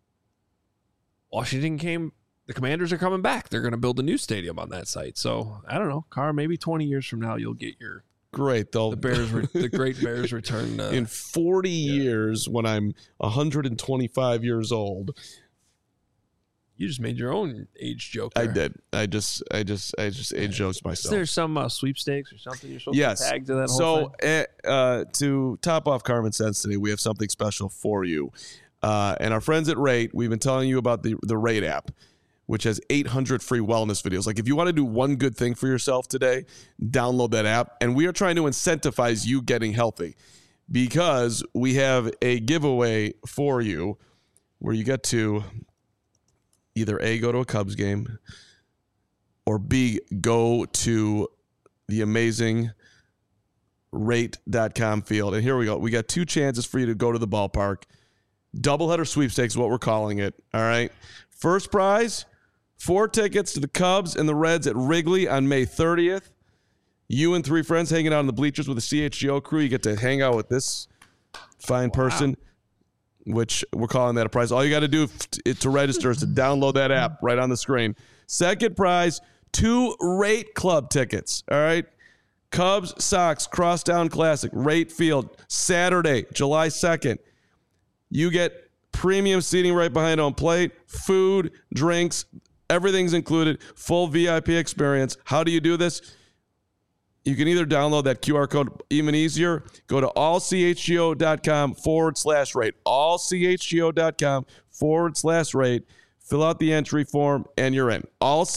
the Commanders are coming back. They're going to build a new stadium on that site. So, I don't know, Carr, maybe 20 years from now, you'll get your... Great, though. The great Bears return. In 40 years, when I'm 125 years old... You just made your own age joke. I there. did. I just age jokes Is myself. there some sweepstakes or something you're supposed to tag to that whole thing? To top off Carmen Sense today, we have something special for you. And our friends at Rate, we've been telling you about the Rate app, which has 800 free wellness videos. Like if you want to do one good thing for yourself today, download that app. And we are trying to incentivize you getting healthy because we have a giveaway for you where you get to either A, go to a Cubs game, or B, go to the amazing rate.com field. And here we go. We got 2 chances for you to go to the ballpark. Doubleheader sweepstakes is what we're calling it. All right. First prize, 4 tickets to the Cubs and the Reds at Wrigley on May 30th. You and 3 friends hanging out in the bleachers with the CHGO crew. You get to hang out with this fine person, which we're calling that a prize. All you got to do to register is to download that app right on the screen. Second prize, 2 Rate Club tickets. All right. Cubs, Sox, Crosstown Classic, Rate Field, Saturday, July 2nd. You get premium seating right behind home plate, food, drinks, everything's included, full VIP experience. How do you do this? You can either download that QR code, even easier, go to allchgo.com/rate, allchgo.com/rate, fill out the entry form, and you're in.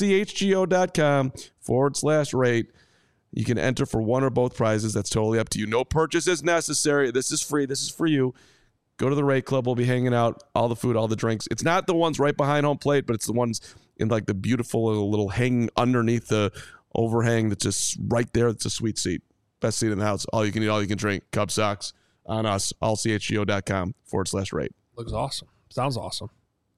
allchgo.com/rate. You can enter for one or both prizes. That's totally up to you. No purchase is necessary. This is free. This is for you. Go to the Rate Club. We'll be hanging out. All the food, all the drinks. It's not the ones right behind home plate, but it's the ones in like the beautiful little hanging underneath the overhang that's just right there. It's a sweet seat. Best seat in the house. All you can eat, all you can drink. Cub Sox on us. allchgo.com/rate. Looks awesome. Sounds awesome.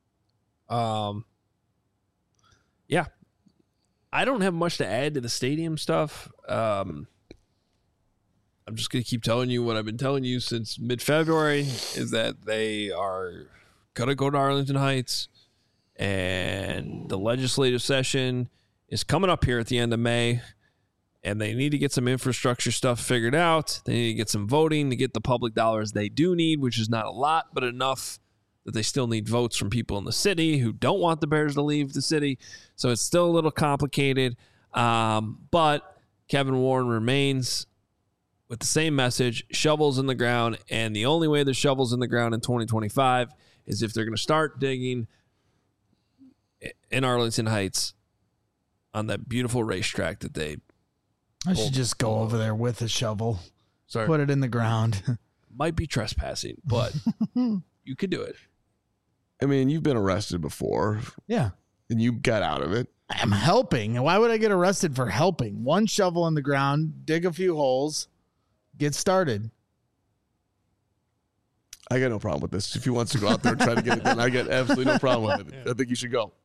Yeah. I don't have much to add to the stadium stuff. I'm just going to keep telling you what I've been telling you since mid-February is that they are going to go to Arlington Heights, and the legislative session is coming up here at the end of May, and they need to get some infrastructure stuff figured out. They need to get some voting to get the public dollars they do need, which is not a lot, but enough that they still need votes from people in the city who don't want the Bears to leave the city. So it's still a little complicated. But Kevin Warren remains with the same message, shovels in the ground. And the only way there's shovels in the ground in 2025 is if they're going to start digging in Arlington Heights on that beautiful racetrack that they... I should just go over there with a shovel. Sorry. Put it in the ground. Might be trespassing, but you could do it. I mean, you've been arrested before. Yeah. And you got out of it. I'm helping. Why would I get arrested for helping? One shovel in the ground, dig a few holes, get started. I got no problem with this. If he wants to go out there and try to get it done, I got absolutely no problem with it. I think you should go.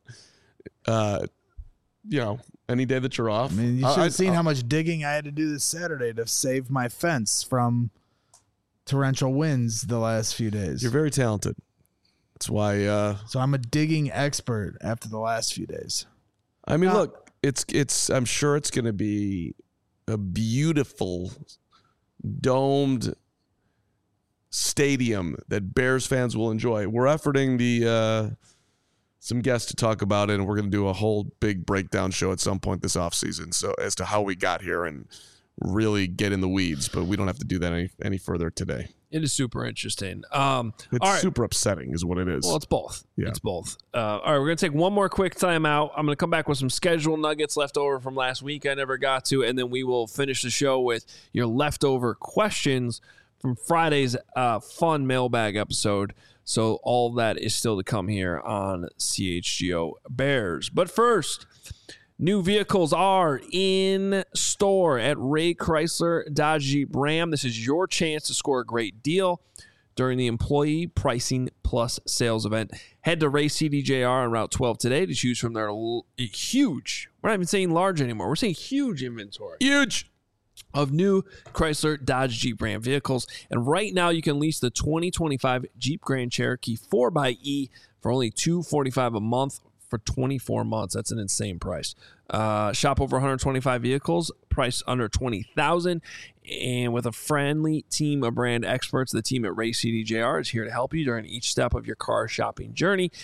Any day that you're off. I mean, you should have seen how much digging I had to do this Saturday to save my fence from torrential winds the last few days. You're very talented. That's why. So I'm a digging expert after the last few days. I mean, look, it's. I'm sure it's going to be a beautiful domed stadium that Bears fans will enjoy. We're efforting some guests to talk about it, and we're going to do a whole big breakdown show at some point this offseason. So as to how we got here and really get in the weeds, but we don't have to do that any further today. It is super interesting. It's super upsetting is what it is. Well, it's both. Yeah. It's both. All right, we're going to take one more quick time out. I'm going to come back with some schedule nuggets left over from last week I never got to, and then we will finish the show with your leftover questions from Friday's fun mailbag episode. So all of that is still to come here on CHGO Bears. But first, new vehicles are in store at Ray Chrysler Dodge Jeep Ram. This is your chance to score a great deal during the Employee Pricing Plus sales event. Head to Ray CDJR on Route 12 today to choose from their huge, we're not even saying large anymore, we're saying huge inventory. Huge! Of new Chrysler Dodge Jeep Ram vehicles. And right now you can lease the 2025 Jeep Grand Cherokee 4xE for only $245 a month for 24 months. That's an insane price. Shop over 125 vehicles, priced under $20,000. And with a friendly team of brand experts, the team at Ray CDJR is here to help you during each step of your car shopping journey.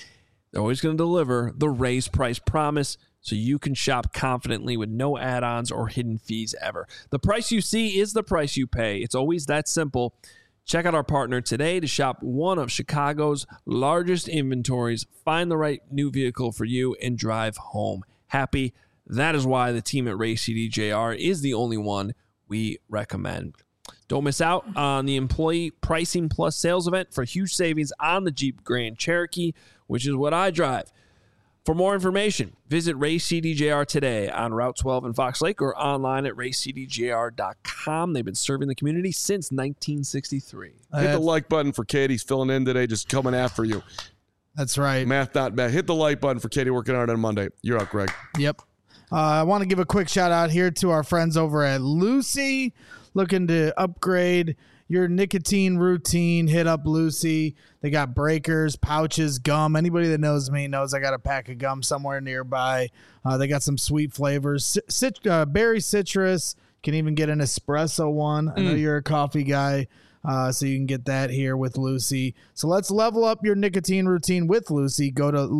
They're always going to deliver the raised price promise so you can shop confidently with no add-ons or hidden fees ever. The price you see is the price you pay. It's always that simple. Check out our partner today to shop one of Chicago's largest inventories, find the right new vehicle for you, and drive home happy. That is why the team at Race CDJR is the only one we recommend. Don't miss out on the Employee Pricing Plus sales event for huge savings on the Jeep Grand Cherokee, which is what I drive. For more information, visit Race CDJR today on Route 12 in Fox Lake or online at racecdjr.com. They've been serving the community since 1963. Hit the like button for Katie's filling in today, just coming after you. That's right. Math not bad. Hit the like button for Katie working hard on Monday. You're up, Greg. Yep. I want to give a quick shout out here to our friends over at Lucy. Looking to upgrade your nicotine routine, hit up Lucy. They got breakers, pouches, gum. Anybody that knows me knows I got a pack of gum somewhere nearby. They got some sweet flavors. Berry citrus. Can even get an espresso one. I know you're a coffee guy, so you can get that here with Lucy. So let's level up your nicotine routine with Lucy. Go to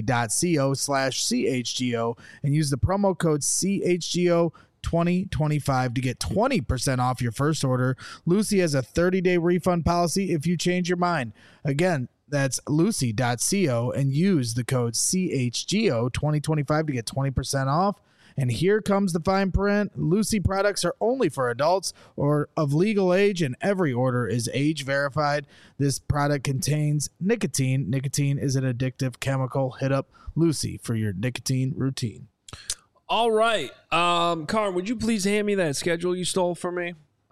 lucy.co/CHGO and use the promo code CHGO 2025 to get 20% off your first order. Lucy has a 30-day refund policy if you change your mind. Again, that's lucy.co and use the code CHGO 2025 to get 20% off. And here comes the fine print. Lucy products are only for adults or of legal age, and every order is age verified. This product contains nicotine. Nicotine is an addictive chemical. Hit up Lucy for your nicotine routine. All right. Carm, would you please hand me that schedule you stole from me?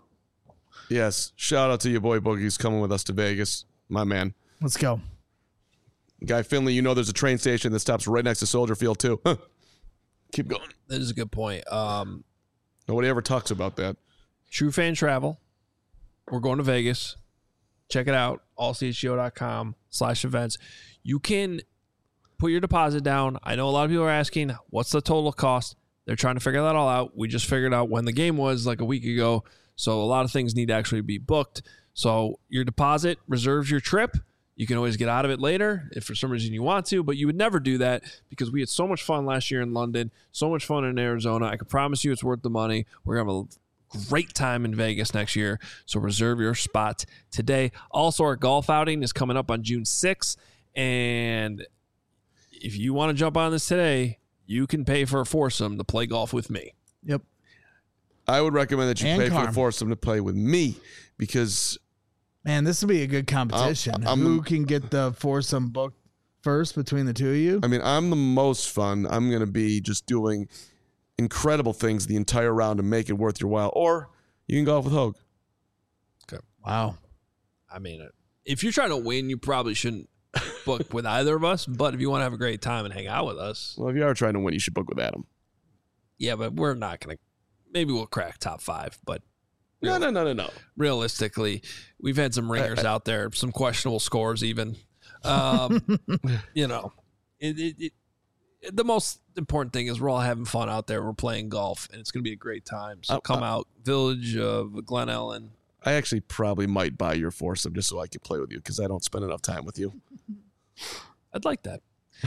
Yes. Shout out to your boy Boogie's coming with us to Vegas. My man. Let's go. Guy Finley, you know there's a train station that stops right next to Soldier Field, too. Keep going. That is a good point. Nobody ever talks about that. True Fan Travel. We're going to Vegas. Check it out. allchgo.com/events. You can put your deposit down. I know a lot of people are asking, what's the total cost? They're trying to figure that all out. We just figured out when the game was like a week ago. So a lot of things need to actually be booked. So your deposit reserves your trip. You can always get out of it later if for some reason you want to, but you would never do that because we had so much fun last year in London, so much fun in Arizona. I can promise you it's worth the money. We're going to have a great time in Vegas next year. So reserve your spot today. Also, our golf outing is coming up on June 6th. And if you want to jump on this today, you can pay for a foursome to play golf with me. Yep. I would recommend that you And pay for Carm. the foursome to play with me because, Man, this will be a good competition. Who can get the foursome booked first between the two of you? I mean, I'm the most fun. I'm going to be just doing incredible things the entire round to make it worth your while. Or you can golf with Hogue. Okay. Wow. I mean, if you're trying to win, you probably shouldn't book with either of us. But if you want to have a great time and hang out with us, Well, if you are trying to win, you should book with Adam. yeah, but we're not going to. Maybe we'll crack top 5, but No. realistically, we've had some ringers out there, some questionable scores even. You know, the most important thing is we're all having fun out there. We're playing golf, and it's going to be a great time. So come out, Village of Glen Ellen. I actually probably might buy your foursome just so I can play with you because I don't spend enough time with you. I'd like that.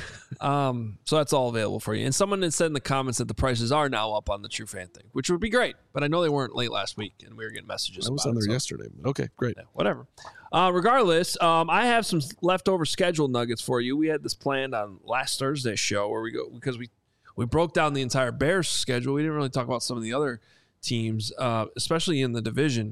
So that's all available for you. And someone had said in the comments that the prices are now up on the True Fan thing, which would be great. But I know they weren't late last week, and we were getting messages. I was about on it, there so- yesterday. But okay, great. Yeah, whatever. Regardless, I have some leftover schedule nuggets for you. We had this planned on last Thursday's show where we go because we broke down the entire Bears schedule. We didn't really talk about some of the other teams, especially in the division.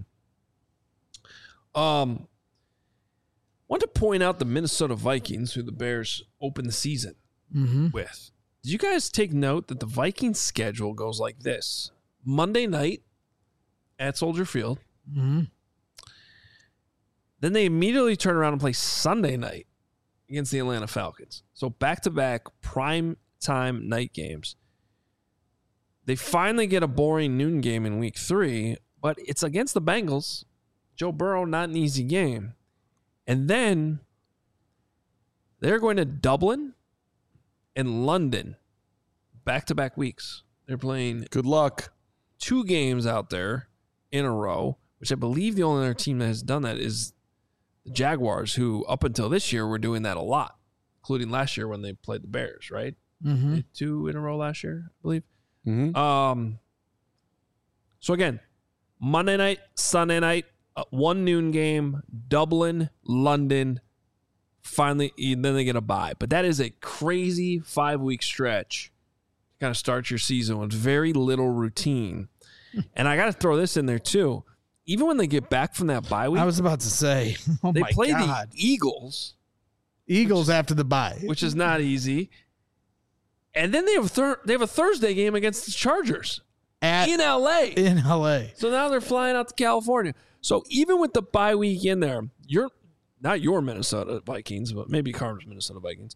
Want to point out the Minnesota Vikings, who the Bears opened the season with. Did you guys take note that the Vikings schedule goes like this? Monday night at Soldier Field. Mm-hmm. Then they immediately turn around and play Sunday night against the Atlanta Falcons. So back-to-back prime time night games. They finally get a boring noon game in week 3, but it's against the Bengals. Joe Burrow, not an easy game. And then they're going to Dublin and London back-to-back weeks. They're playing Good luck. 2 games out there in a row, which I believe the only other team that has done that is the Jaguars, who up until this year were doing that a lot. including last year when they played the Bears, right? Mm-hmm. 2 in a row last year, I believe. Mm-hmm. So again, Monday night, Sunday night, 1 noon game, Dublin, London. Finally, then they get a bye. But that is a crazy 5-week stretch to kind of start your season with very little routine. And I got to throw this in there too. Even when they get back from that bye week, I was about to say, they play God. the Eagles. Eagles after the bye, which is not easy. And then they have a Thursday game against the Chargers in LA. In LA. So now they're flying out to California. So even with the bye week in there, you're not your Minnesota Vikings, but maybe Carter's Minnesota Vikings.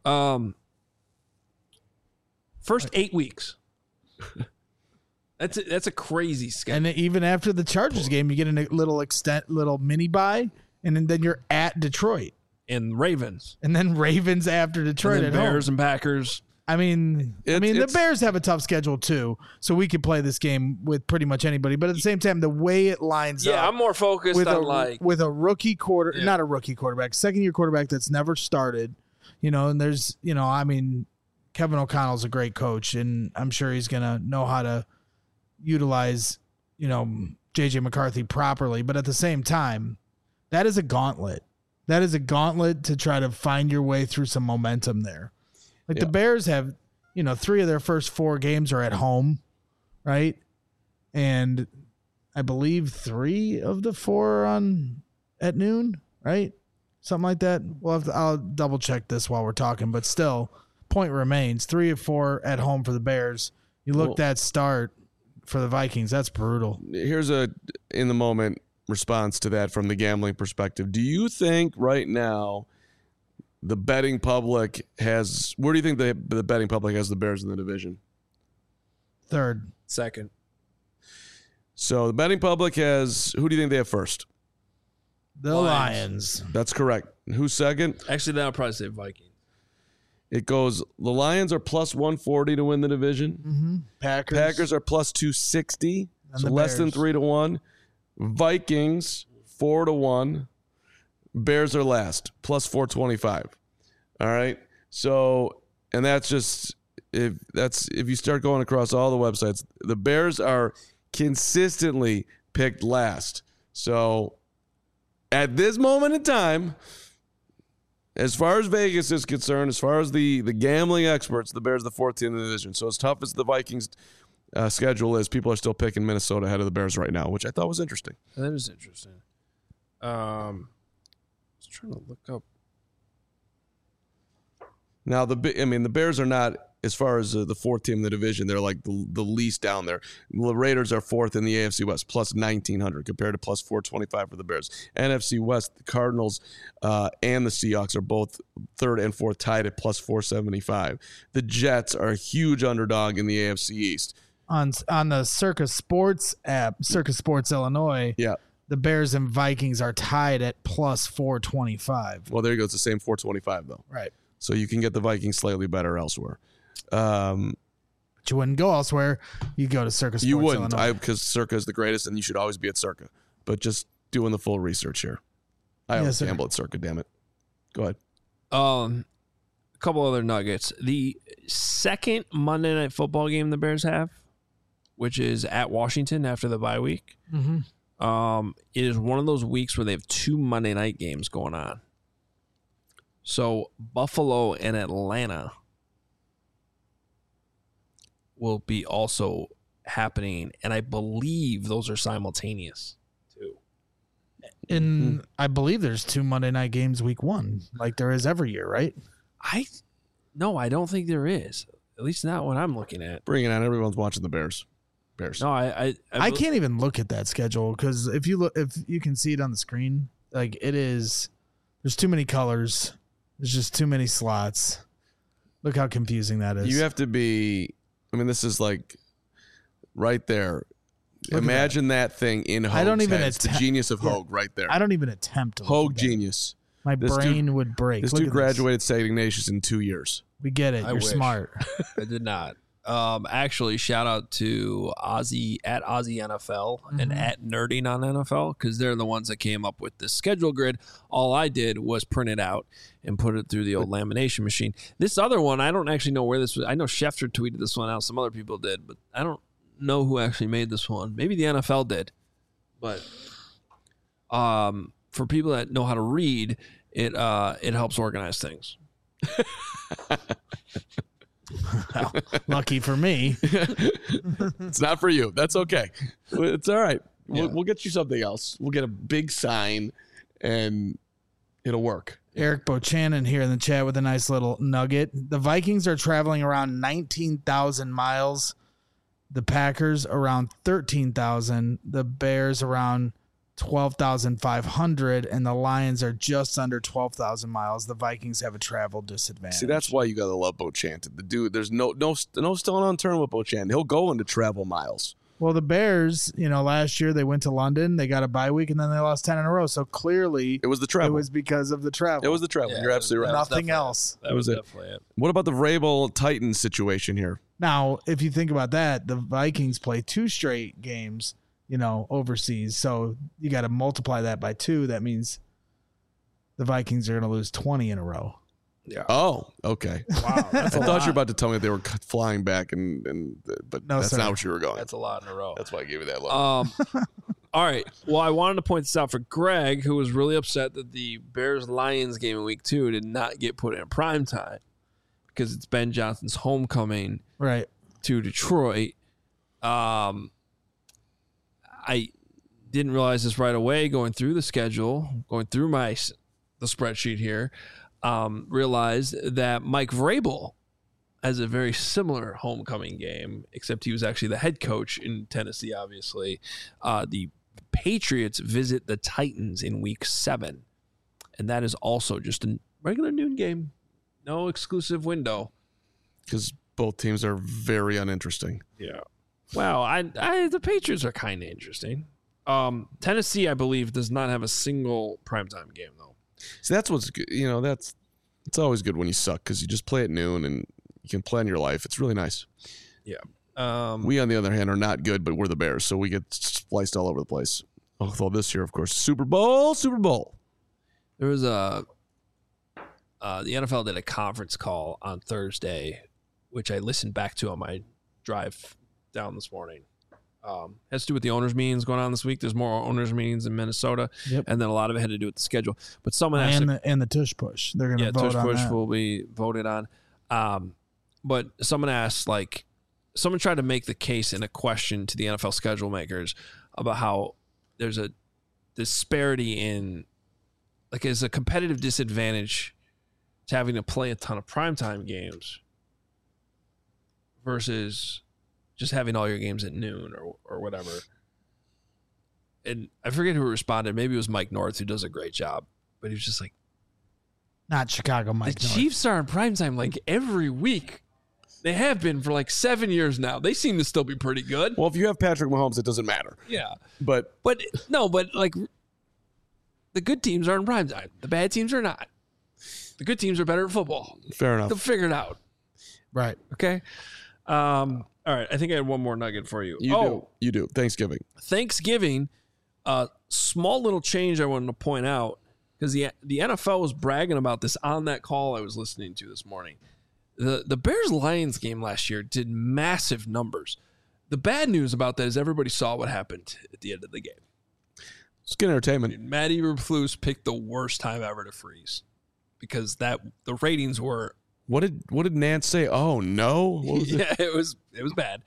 First 8 weeks. That's a crazy schedule. And even after the Chargers game, you get a little mini bye, and then you're at Detroit. And Ravens. And then Ravens after Detroit and then Bears and Packers. I mean, the Bears have a tough schedule too, so we could play this game with pretty much anybody. But at the same time, the way it lines up, I'm more focused on with a rookie not a rookie quarterback, second-year quarterback that's never started, and there's, Kevin O'Connell's a great coach, and I'm sure he's gonna know how to utilize, JJ McCarthy properly. But at the same time, that is a gauntlet. That is a gauntlet to try to find your way through some momentum there. Like the Bears have, 3 of their first 4 games are at home, right? And I believe 3 of the 4 are at noon, right? Something like that. I'll double check this while we're talking, but still, point remains: 3 of 4 at home for the Bears. You look that start for the Vikings. That's brutal. Here's a in the moment response to that from the gambling perspective. Do you think right now the betting public has? Where do you think the betting public has the Bears in the division? Third. Second. So the betting public has. Who do you think they have first? The Lions. That's correct. Who's second? Actually, then I'll probably say Vikings. It goes. The Lions are plus 140 to win the division. Mm-hmm. Packers are plus 260, so less than 3 to 1. Vikings 4 to 1. Bears are last, plus 425. All right. So, and that's just if you start going across all the websites, the Bears are consistently picked last. So, at this moment in time, as far as Vegas is concerned, as far as the gambling experts, the Bears are the 4th team in the division. So, as tough as the Vikings schedule is, people are still picking Minnesota ahead of the Bears right now, which I thought was interesting. That is interesting. I was trying to look up. Now, the Bears are not, as far as the 4th team in the division, they're like the least down there. The Raiders are 4th in the AFC West, plus 1,900 compared to plus 425 for the Bears. NFC West, the Cardinals and the Seahawks are both 3rd and 4th tied at plus 475. The Jets are a huge underdog in the AFC East. On the Circa Sports app, Circa Sports Illinois, the Bears and Vikings are tied at plus 425. Well, there you go. It's the same 425, though. Right. So you can get the Vikings slightly better elsewhere. But you wouldn't go elsewhere. You go to Circa Sports Illinois. You wouldn't, because Circa is the greatest, and you should always be at Circa. But just doing the full research here. I always gamble at Circa, damn it. Go ahead. A couple other nuggets. The second Monday Night Football game the Bears have, which is at Washington after the bye week. Mm-hmm. It is one of those weeks where they have 2 Monday night games going on. So Buffalo and Atlanta will be also happening, and I believe those are simultaneous too. And I believe there's 2 Monday night games week 1, like there is every year, right? I don't think there is. At least not what I'm looking at. Bring it on. Everyone's watching the Bears. No, I can't even look at that schedule because if you can see it on the screen, like it is, there's too many colors. There's just too many slots. Look how confusing that is. You have to be. I mean, this is like right there. Look Imagine that thing in Hogue's I don't even head. It's the genius of Hogue right there. I don't even attempt to. Hogue genius. My brain would break. This dude graduated St. Ignatius in 2 years. We get it. You're smart. I did not. Actually, shout out to Ozzy at Ozzy NFL and at Nerding on NFL, because they're the ones that came up with this schedule grid. All I did was print it out and put it through the old lamination machine. This other one, I don't actually know where this was. I know Schefter tweeted this one out. Some other people did, but I don't know who actually made this one. Maybe the NFL did. But for people that know how to read, it helps organize things. Well, lucky for me. It's not for you. That's okay. It's all right. Yeah. We'll get you something else. We'll get a big sign, and it'll work. Eric Bochanan here in the chat with a nice little nugget. The Vikings are traveling around 19,000 miles. The Packers around 13,000. The Bears around 12,500, and the Lions are just under 12,000 miles. The Vikings have a travel disadvantage. See, that's why you gotta love Bochanted. The dude, there's no stone unturned with Bochanted. He'll go into travel miles. Well, the Bears, last year they went to London, they got a bye week, and then they lost 10 in a row. So clearly, It was the travel. it was because of the travel. It was the travel. You're absolutely right. Nothing else. That was it. definitely it. What about the Vrabel Titans situation here? Now, if you think about that, the Vikings play 2 straight games, overseas. So you got to multiply that by 2. That means the Vikings are going to lose 20 in a row. Yeah. Oh, okay. Wow. That's I a thought lot. you were about to tell me they were flying back, but No, that's sir. not what you were going. That's a lot in a row. That's why I gave you that look. All right. Well, I wanted to point this out for Greg, who was really upset that the Bears-Lions game in Week 2 did not get put in prime time because it's Ben Johnson's homecoming Right. to Detroit. I didn't realize this right away going through the schedule, going through the spreadsheet here, realized that Mike Vrabel has a very similar homecoming game, except he was actually the head coach in Tennessee, obviously. The Patriots visit the Titans in Week 7, and that is also just a regular noon game. No exclusive window. Because both teams are very uninteresting. Yeah. Well, the Patriots are kind of interesting. Tennessee, I believe, does not have a single primetime game, though. So that's what's good. It's always good when you suck because you just play at noon and you can plan your life. It's really nice. Yeah. We, on the other hand, are not good, but we're the Bears, so we get spliced all over the place. Although this year, of course, Super Bowl. There was the NFL did a conference call on Thursday, which I listened back to on my drive down this morning. Has to do with the owners' meetings going on this week. There's more owners' meetings in Minnesota, Yep. And then a lot of it had to do with the schedule. But someone asked, And the tush push. They're going to vote tush on push that. will be voted on. But someone asked, someone tried to make the case in a question to the NFL schedule makers about how there's a disparity in, is a competitive disadvantage to having to play a ton of primetime games versus just having all your games at noon or whatever. And I forget who responded. Maybe it was Mike North, who does a great job. But he was just like, Not Chicago Mike the North. Chiefs are in primetime every week. They have been for 7 years now. They seem to still be pretty good. Well, if you have Patrick Mahomes, it doesn't matter. Yeah. But But the good teams are in primetime. The bad teams are not. The good teams are better at football. fair enough. They'll figure it out. Right. Okay. All right. I think I had one more nugget for you. You do. Thanksgiving. Thanksgiving, small little change I wanted to point out, because the NFL was bragging about this on that call I was listening to this morning. The Bears-Lions game last year did massive numbers. The bad news about that is everybody saw what happened at the end of the game. It's good entertainment. Matt Eberflus picked the worst time ever to freeze because the ratings were. What did Nance say? Oh no! What was it? Yeah, it was bad.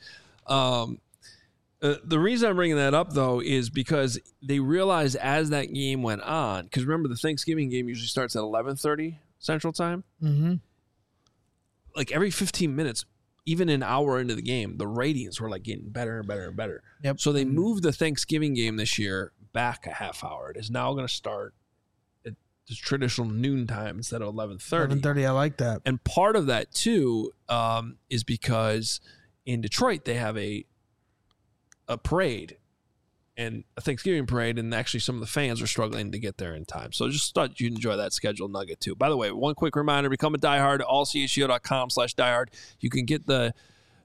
The reason I'm bringing that up though is because they realized as that game went on, because remember the Thanksgiving game usually starts at 11:30 Central Time. Mm-hmm. Every 15 minutes, even an hour into the game, the ratings were getting better and better and better. Yep. So they moved the Thanksgiving game this year back a half hour. It is now going to start at the traditional noon time instead of 11:30. 11:30. I like that. And part of that too is because in Detroit they have a parade and a Thanksgiving parade, and actually some of the fans are struggling to get there in time. So just thought you'd enjoy that schedule nugget too. By the way, one quick reminder: become a diehard. allcsgo.com/diehard. You can get the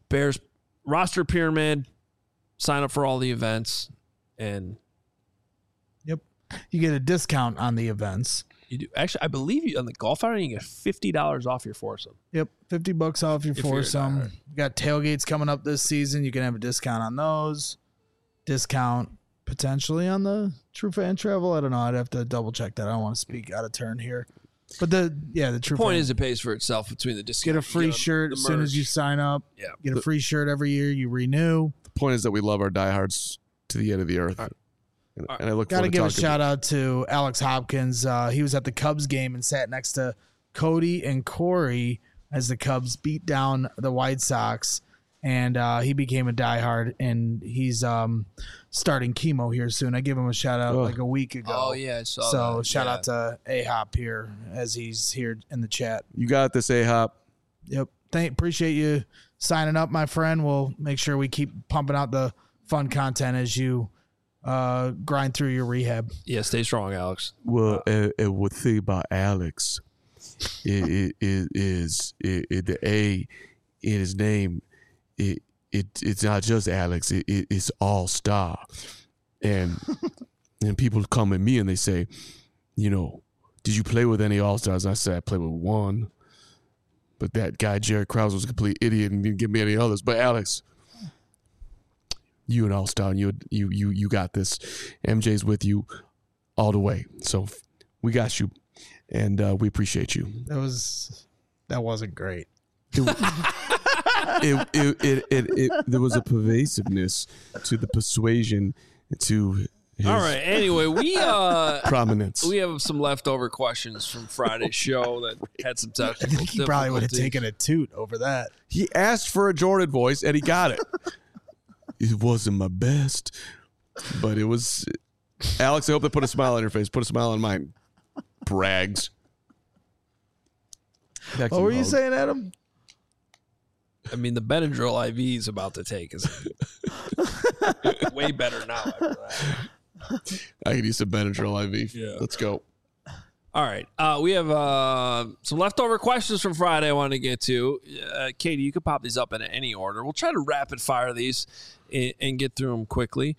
Bears roster pyramid, sign up for all the events, and you get a discount on the events. you do. Actually, I believe you on the golf outing, you get $50 off your foursome. Yep, $50 off your If you're a foursome. diehard. You got tailgates coming up this season. You can have a discount on those. Discount potentially on the True Fan Travel. I don't know. I'd have to double check that. I don't want to speak out of turn here. But the True Point Fan. is, it pays for itself between the discount. Get a free shirt as soon as you sign up. Yeah. Get a free shirt every year. You renew. The point is that we love our diehards to the end of the earth. And I look Got to forward to give a talking shout out to Alex Hopkins. He was at the Cubs game and sat next to Cody and Corey as the Cubs beat down the White Sox. And he became a diehard, and he's starting chemo here soon. I gave him a shout out like a week ago. Oh, yeah, I saw So that. shout Yeah. out to A-Hop here as he's here in the chat. You got this, A-Hop. Yep. Appreciate you signing up, my friend. We'll make sure we keep pumping out the fun content as you grind through your rehab. Yeah, stay strong, Alex. Well, what thing about Alex is the A in his name. It's not just Alex. It's All Star, and people come at me and they say, did you play with any All Stars? I said I played with one, but that guy Jared Krause was a complete idiot and didn't give me any others. But Alex, you an All Star, and you got this. MJ's with you all the way, so we got you, and we appreciate you. That wasn't great. There was a pervasiveness to the persuasion to his All right. Anyway, we prominence. we have some leftover questions from Friday's show that had some I technical think he probably would have difficulties. taken a toot over that. He asked for a Jordan voice and he got it. It wasn't my best, but it was. Alex, I hope they put a smile on your face. Put a smile on mine. Brags. Back to What were you Hogue. saying, Adam? I mean, the Benadryl IV is about to take is way better now. After that. I could use some Benadryl IV. Yeah. Let's go. All right. We have some leftover questions from Friday I wanted to get to. Katie, you could pop these up in any order. We'll try to rapid fire these and get through them quickly.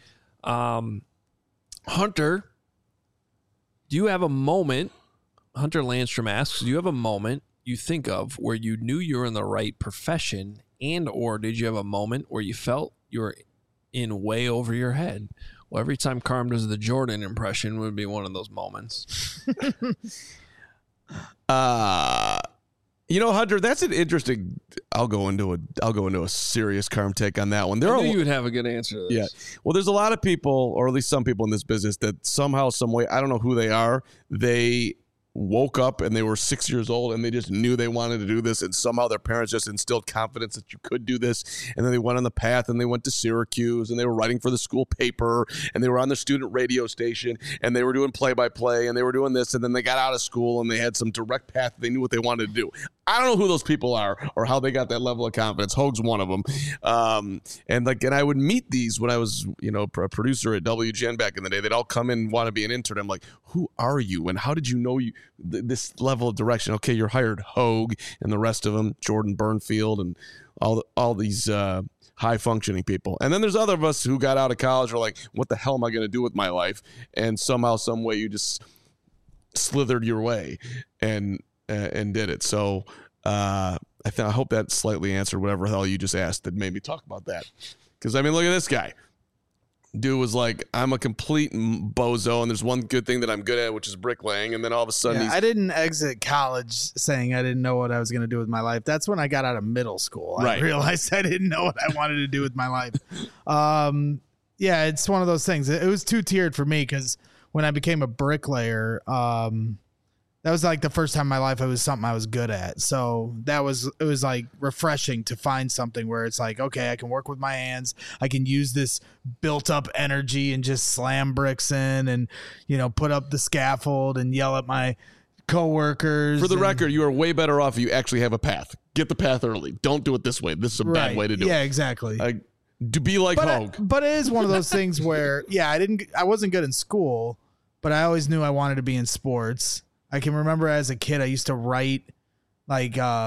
Hunter, do you have a moment? Hunter Landstrom asks, do you have a moment you think of where you knew you were in the right profession, and or did you have a moment where you felt you were in way over your head? Well, every time Carm does the Jordan impression would be one of those moments. Hunter, that's an interesting. I'll go into a serious Carm take on that one. I knew you would have a good answer to this. Yeah. Well, there's a lot of people, or at least some people in this business, that somehow, some way, I don't know who they are, they woke up and they were 6 years old and they just knew they wanted to do this, and somehow their parents just instilled confidence that you could do this, and then they went on the path and they went to Syracuse and they were writing for the school paper and they were on the student radio station and they were doing play-by-play and they were doing this, and then they got out of school and they had some direct path. They knew what they wanted to do. I don't know who those people are or how they got that level of confidence. Hogue's one of them. And I would meet these when I was, a producer at WGN back in the day. They'd all come in and want to be an intern. I'm like, who are you? And how did you know this level of direction? Okay, you're hired. Hogue and the rest of them, Jordan Burnfield and all these high functioning people. And then there's other of us who got out of college are like, what the hell am I going to do with my life? And somehow, some way, you just slithered your way and did it. So I hope that slightly answered whatever the hell you just asked that made me talk about that. Because, look at this guy. Dude was like, I'm a complete bozo, and there's one good thing that I'm good at, which is bricklaying. And then all of a sudden, I didn't exit college saying I didn't know what I was going to do with my life. That's when I got out of middle school. I realized I didn't know what I wanted to do with my life. It's one of those things. It was two-tiered for me because when I became a bricklayer, that was like the first time in my life it was something I was good at. So it was like refreshing to find something where it's like, okay, I can work with my hands. I can use this built up energy and just slam bricks in and, put up the scaffold and yell at my coworkers. For the record, you are way better off if you actually have a path. Get the path early. Don't do it this way. This is a bad way to do it. Yeah, exactly. To be like Hogue. But it is one of those things where, I wasn't good in school, but I always knew I wanted to be in sports. I can remember as a kid, I used to write like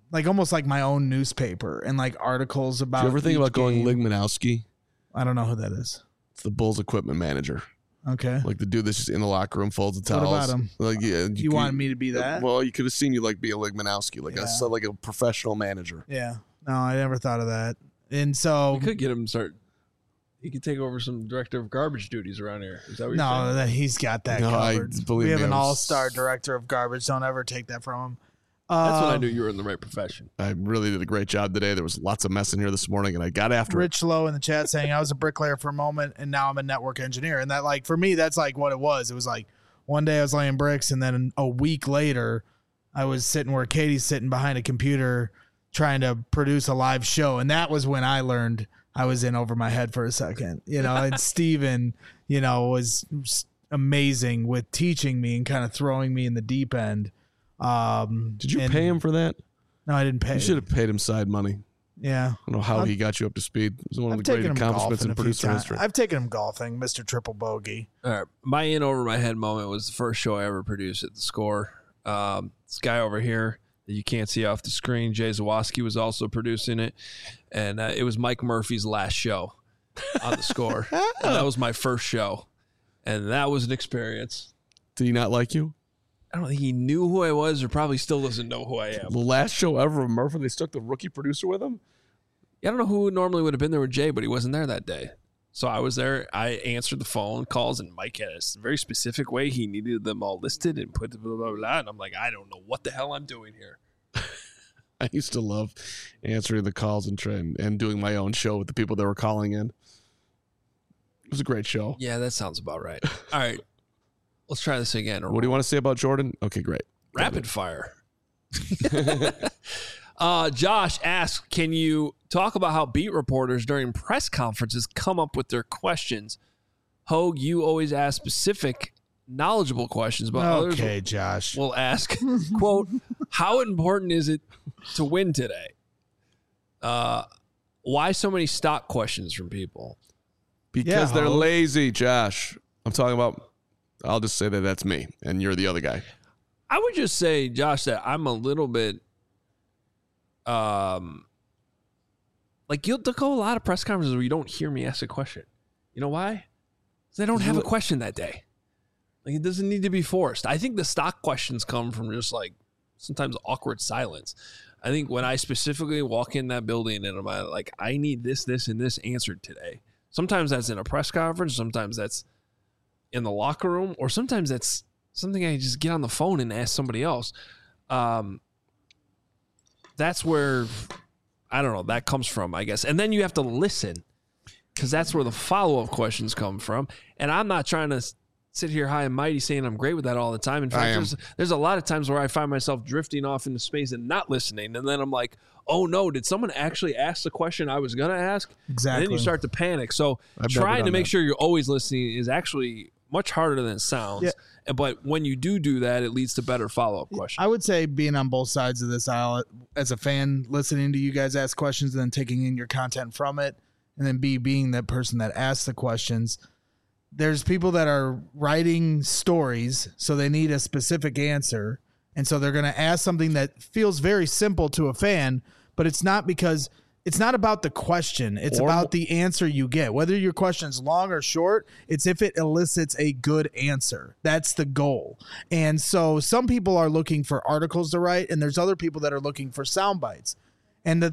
like almost like my own newspaper and like articles about. Do you ever think each about going game. Ligmanowski? I don't know who that is. It's the Bulls equipment manager. Okay. Like the dude that's just in the locker room, folds the towels. What about him? Like, yeah, You wanted me to be that? Well, you could have seen you like be a Ligmanowski, like Yeah. like a professional manager. Yeah. No, I never thought of that. And so We could get him to start. He could take over some director of garbage duties around here. Is that what you're no, saying? that he's got that No, covered. believe We have me, an I was- all-star director of garbage. Don't ever take that from him. That's when I knew you were in the right profession. I really did a great job today. There was lots of mess in here this morning, and I got after it. Rich Lowe in the chat saying I was a bricklayer for a moment and now I'm a network engineer. And that, like, for me, that's like what it was. It was like one day I was laying bricks and then a week later I was sitting where Katie's sitting behind a computer trying to produce a live show. And that was when I learned I was in over my head for a second, and Steven, was amazing with teaching me and kind of throwing me in the deep end. Did you pay him for that? No, I didn't pay. You should have paid him side money. Yeah. I don't know how he got you up to speed. It was one of I've the great taken him accomplishments golfing in a few producer times. history. I've taken him golfing, Mr. Triple Bogey. All right. My in over my head moment was the first show I ever produced at the Score. This guy over here that you can't see off the screen, Jay Zawoski, was also producing it. And it was Mike Murphy's last show on the Score. And that was my first show. And that was an experience. Did he not like you? I don't think he knew who I was or probably still doesn't know who I am. The last show ever of Murphy, they stuck the rookie producer with him? I don't know who normally would have been there with Jay, but he wasn't there that day. So I was there. I answered the phone calls, and Mike had a very specific way he needed them all listed and put blah, blah, blah. And I'm like, I don't know what the hell I'm doing here. I used to love answering the calls and doing my own show with the people that were calling in. It was a great show. Yeah, that sounds about right. All right. Let's try this again. What do you want to say about Jordan? Okay, great. Rapid fire. Josh asks, can you talk about how beat reporters during press conferences come up with their questions? Hogue, you always ask specific, knowledgeable questions, but Okay, others Josh. will ask, quote, how important is it to win today? Why so many stock questions from people? Because Yeah, they're Hogue. lazy, Josh. I'm talking about, I'll just say that that's me, and you're the other guy. I would just say, Josh, that I'm a little bit, like there'll go a lot of press conferences where you don't hear me ask a question. You know why? Because they don't have a question that day. Like it doesn't need to be forced. I think the stock questions come from just like sometimes awkward silence. I think when I specifically walk in that building and I'm like, I need this, and this answered today. Sometimes that's in a press conference. Sometimes that's in the locker room, or sometimes that's something I just get on the phone and ask somebody else. That's where, I don't know, that comes from, I guess. And then you have to listen because that's where the follow-up questions come from. And I'm not trying to sit here high and mighty saying I'm great with that all the time. In fact, there's a lot of times where I find myself drifting off into space and not listening. And then I'm like, oh no, did someone actually ask the question I was going to ask? Exactly. And then you start to panic. So I've never trying to done make that. sure you're always listening is actually much harder than it sounds. Yeah. But when you do that, it leads to better follow-up questions. I would say being on both sides of this aisle as a fan, listening to you guys ask questions and then taking in your content from it, and then being that person that asks the questions. There's people that are writing stories, so they need a specific answer. And so they're going to ask something that feels very simple to a fan, but it's not because it's not about the question. It's about the answer you get. Whether your question's long or short, it's if it elicits a good answer. That's the goal. And so some people are looking for articles to write, and there's other people that are looking for sound bites. And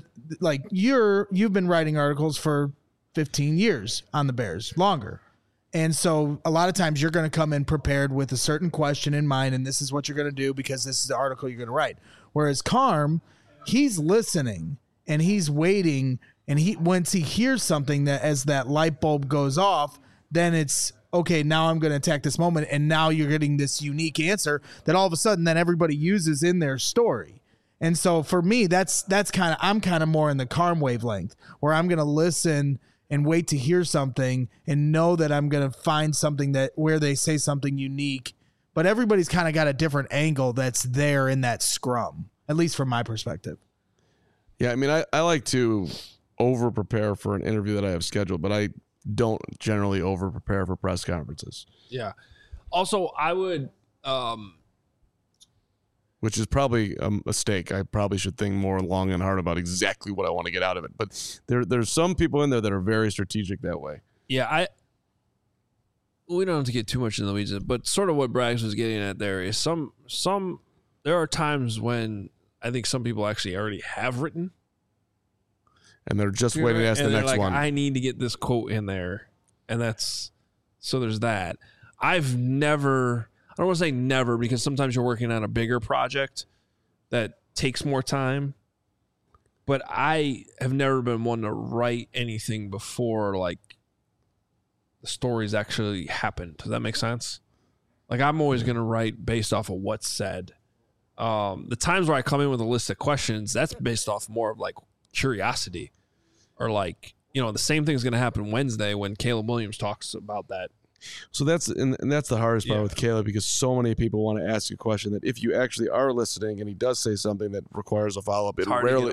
you've been writing articles for 15 years on the Bears, longer. And so a lot of times you're going to come in prepared with a certain question in mind, and this is what you're going to do because this is the article you're going to write. Whereas Carm, he's listening and he's waiting, and once he hears something that as that light bulb goes off, then it's okay, now I'm going to attack this moment, and now you're getting this unique answer that all of a sudden then everybody uses in their story. And so for me, I'm kind of more in the Carm wavelength where I'm going to listen and wait to hear something and know that I'm going to find something where they say something unique, but everybody's kind of got a different angle that's there in that scrum, at least from my perspective. Yeah, I mean, I like to over-prepare for an interview that I have scheduled, but I don't generally over-prepare for press conferences. Yeah. Also, I would which is probably a mistake. I probably should think more long and hard about exactly what I want to get out of it. But there's some people in there that are very strategic that way. Yeah, we don't have to get too much in the weeds, but sort of what Braggs was getting at there is there are times when I think some people actually already have written. And they're just waiting to ask the next one. I need to get this quote in there. And so there's that. I don't want to say never, because sometimes you're working on a bigger project that takes more time. But I have never been one to write anything before, like, the stories actually happened. Does that make sense? Like, I'm always going to write based off of what's said. The times where I come in with a list of questions, that's based off more of, like, curiosity. Or, like, the same thing is going to happen Wednesday when Caleb Williams talks about that. So that's the hardest part with Caleb, because so many people want to ask you a question that if you actually are listening and he does say something that requires a follow-up, it rarely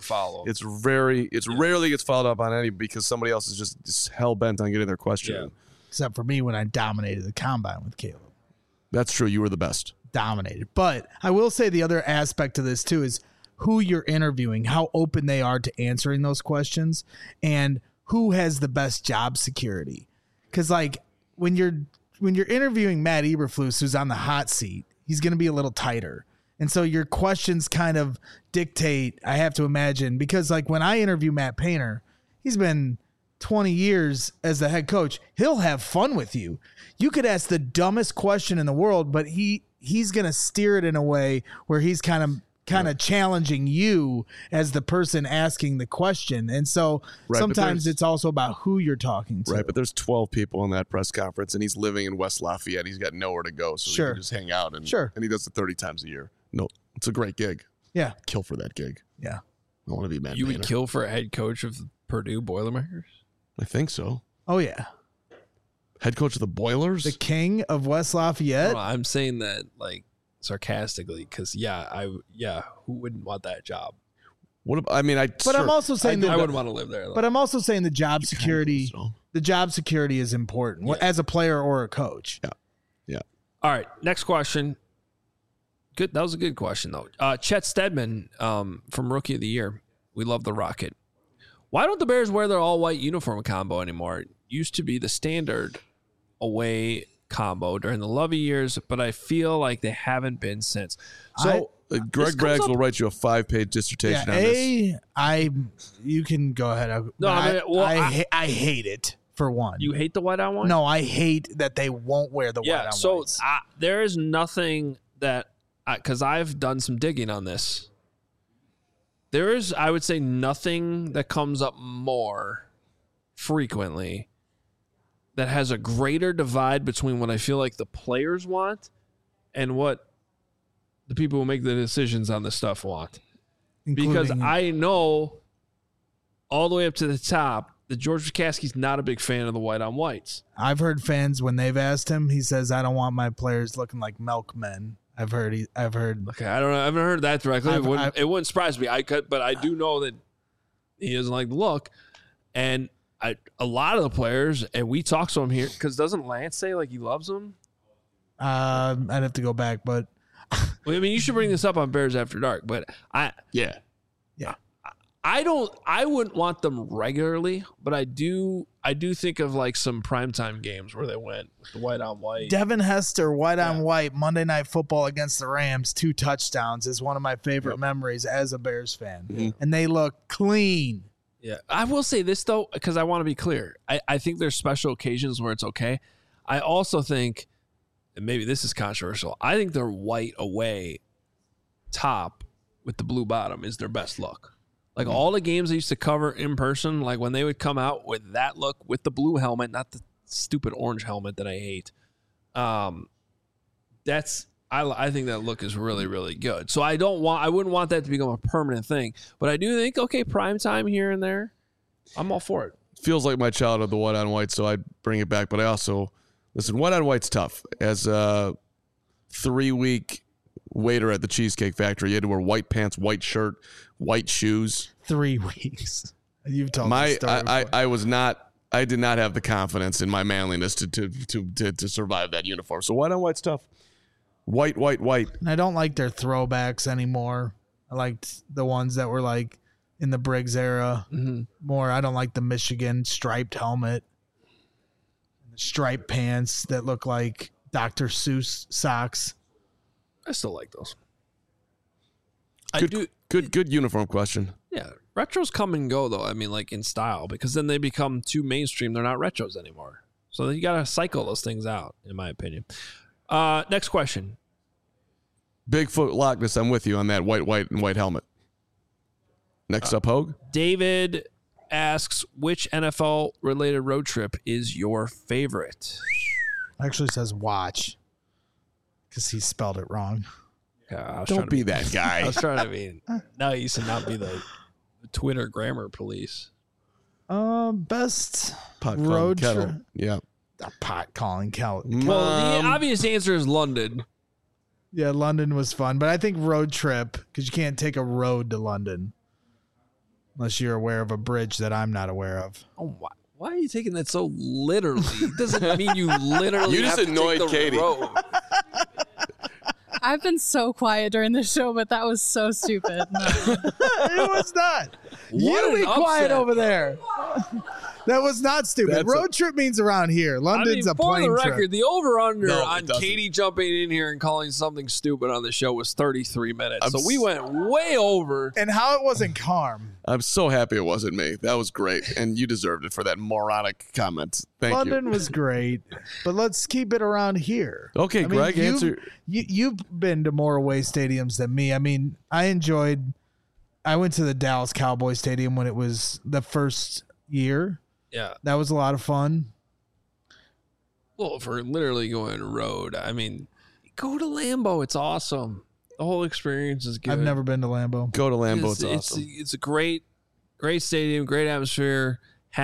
rarely gets followed up on any, because somebody else is just hell-bent on getting their question in. Except for me when I dominated the combine with Caleb. That's true. You were the best. Dominated. But I will say the other aspect of this too is who you're interviewing, how open they are to answering those questions, and who has the best job security. Because, like, when you're interviewing Matt Eberflus, who's on the hot seat, he's going to be a little tighter. And so your questions kind of dictate, I have to imagine, because, like, when I interview Matt Painter, he's been 20 years as the head coach. He'll have fun with you. You could ask the dumbest question in the world, but he's going to steer it in a way where he's kind of challenging you as the person asking the question. And so sometimes it's also about who you're talking to. Right, but there's 12 people in that press conference, and he's living in West Lafayette. He's got nowhere to go, so he can just hang out. And he does it 30 times a year. No, it's a great gig. Yeah. Kill for that gig. Yeah. I want to be Matt You Painter. would kill for a head coach of the Purdue Boilermakers? I think so. Oh, yeah. Head coach of the Boilers? The king of West Lafayette? No, I'm saying that, like, sarcastically, because who wouldn't want that job? I'm also saying I wouldn't want to live there, though. But I'm also saying the job security. The job security is important as a player or a coach. Yeah. All right, next question. Good. That was a good question, though. Chet Stedman from Rookie of the Year. We love the Rocket. Why don't the Bears wear their all-white uniform combo anymore? It used to be the standard away combo during the Lovey years, but I feel like they haven't been since. So Greg Braggs will write you a 5-page dissertation on this. You can go ahead. I hate it, for one. You hate the white on white? No, I hate that they won't wear the white on so whites. there is nothing that, because I've done some digging on this. There is, I would say, nothing that comes up more frequently that has a greater divide between what I feel like the players want and what the people who make the decisions on this stuff want. Because I know all the way up to the top that George McCaskey's not a big fan of the white on whites. I've heard fans, when they've asked him, he says, I don't want my players looking like milkmen. I've heard. Okay, I don't know. I haven't heard that directly. It wouldn't surprise me. But I do know that he doesn't like the look. And a lot of the players, and we talk to him here, because doesn't Lance say like he loves them? I'd have to go back, but well, I mean, you should bring this up on Bears After Dark. But I wouldn't want them regularly, but I do think of like some primetime games where they went with the white on white. Devin Hester, white on white, Monday Night Football against the Rams, 2 touchdowns is one of my favorite memories as a Bears fan. Mm-hmm. And they look clean. Yeah. I will say this, though, because I want to be clear. I think there's special occasions where it's okay. I also think, and maybe this is controversial, I think their white away top with the blue bottom is their best look. Like all the games I used to cover in person, like when they would come out with that look with the blue helmet, not the stupid orange helmet that I hate. I think that look is really, really good. So I wouldn't want that to become a permanent thing. But I do think, okay, prime time here and there, I'm all for it. Feels like my childhood, the white on white, so I'd bring it back. But I also, listen, white on white's tough. As a 3-week waiter at the Cheesecake Factory, you had to wear white pants, white shirt, white shoes. 3 weeks. You've told me story I did not have the confidence in my manliness to survive that uniform. So white on white's tough. White. And I don't like their throwbacks anymore. I liked the ones that were like in the Briggs era more. I don't like the Michigan striped helmet, the striped pants that look like Dr. Seuss socks. I still like those. Good uniform question. Yeah, retros come and go though. I mean, like in style, because then they become too mainstream. They're not retros anymore. So you got to cycle those things out, in my opinion. Next question. Bigfoot Loch Ness, I'm with you on that white and white helmet. Next up, Hogue. David asks, which NFL-related road trip is your favorite? Actually says watch because he spelled it wrong. Don't be that guy. I was trying to be nice and not be the Twitter grammar police. Best Pot road kettle. trip. Yeah. A pot calling kettle. Well, the obvious answer is London. Yeah, London was fun, but I think road trip, because you can't take a road to London unless you're aware of a bridge that I'm not aware of. Oh, why are you taking that so literally? It doesn't mean you literally You just have to annoyed take the Katie. road. I've been so quiet during the show, but that was so stupid. No. It was not. What You an be quiet upset. over there. That was not stupid. That's road trip means around here. London's a for plane the trip. record, the over-under No, it on doesn't. Katie jumping in here and calling something stupid on the show was 33 minutes. I'm So we went way over. And how it wasn't Carm. I'm so happy it wasn't me. That was great. And you deserved it for that moronic comment. Thank London was great, but let's keep it around here. you. Okay, Greg, answer. You've been to more away stadiums than me. I mean, I went to the Dallas Cowboy Stadium when it was the first year. Yeah. That was a lot of fun. Well, for literally going road, I mean, go to Lambeau. It's awesome. The whole experience is good. I've never been to Lambeau. Go to Lambeau. It's awesome. It's a great stadium, great atmosphere.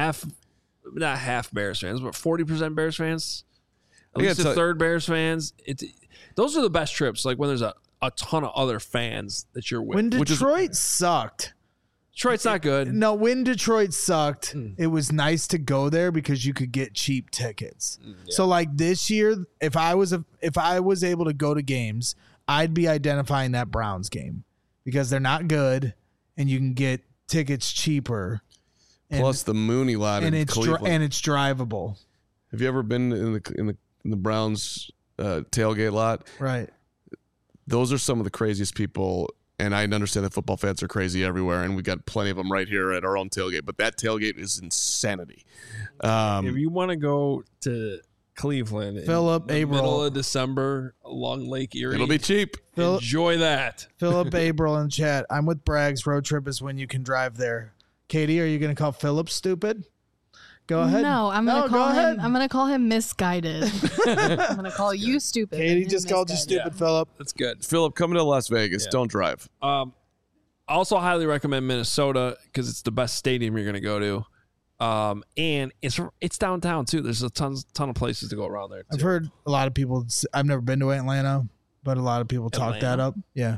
Not half Bears fans, but 40% Bears fans. At least a third Bears fans. Those are the best trips. Like when there's a ton of other fans that you're with. When Detroit sucked. Detroit's not good. No, when Detroit sucked, it was nice to go there because you could get cheap tickets. Yeah. So like this year, if I was able to go to games, I'd be identifying that Browns game because they're not good and you can get tickets cheaper. Plus the Mooney lot in Cleveland. And it's drivable. Have you ever been in the Browns tailgate lot? Right. Those are some of the craziest people. And I understand that football fans are crazy everywhere, and we got plenty of them right here at our own tailgate. But that tailgate is insanity. If you want to go to Cleveland Philip in the Averill. middle of December along Lake Erie, it'll be cheap. enjoy that. Philip Averill in chat. I'm with Braggs. Road trip is when you can drive there. Katie, are you going to call Philip stupid? Go ahead. No, I'm gonna call him. I'm gonna call him misguided. I'm gonna call you stupid. Katie and just him called you misguided. stupid, Philip. That's good. Philip, coming to Las Vegas. Yeah. Don't drive. I also highly recommend Minnesota because it's the best stadium you're going to go to. And it's downtown too. There's a ton of places to go around there too. I've heard a lot of people. I've never been to Atlanta, but a lot of people talk that Atlanta? up. Yeah,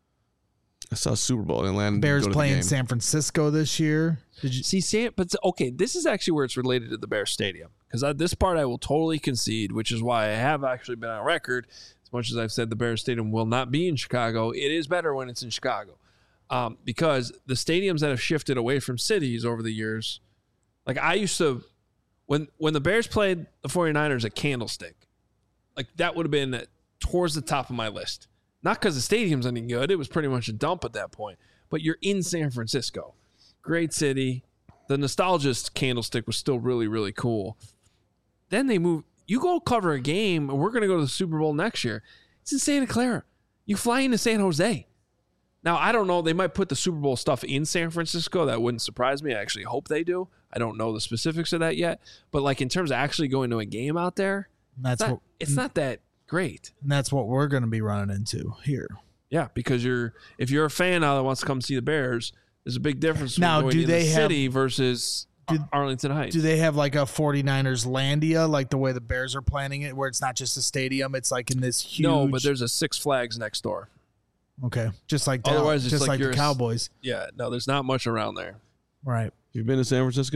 I saw a Super Bowl in Atlanta. Bears Go to the playing game. San Francisco this year. Did you See, but okay, this is actually where it's related to the Bears Stadium because this part I will totally concede, which is why I have actually been on record. As much as I've said the Bears Stadium will not be in Chicago, it is better when it's in Chicago because the stadiums that have shifted away from cities over the years, like I used to, when the Bears played the 49ers at Candlestick, like that would have been towards the top of my list. Not because the stadium's any good. It was pretty much a dump at that point. But you're in San Francisco. Great city. The nostalgist Candlestick was still really, really cool. Then they move. You go cover a game, and we're going to go to the Super Bowl next year. It's in Santa Clara. You fly into San Jose. Now, I don't know. They might put the Super Bowl stuff in San Francisco. That wouldn't surprise me. I actually hope they do. I don't know the specifics of that yet. But like in terms of actually going to a game out there, it's not that great. And that's what we're going to be running into here. Yeah, because if you're a fan now that wants to come see the Bears, there's a big difference between Now, going do in they the have- city versus Arlington Heights. Do they have like a 49ers Landia, like the way the Bears are planning it, where it's not just a stadium, it's like in this huge... No, but there's a Six Flags next door. Okay, just like Otherwise, it's just like like you're the Cowboys. Yeah, no, there's not much around there. Right. You've been to San Francisco?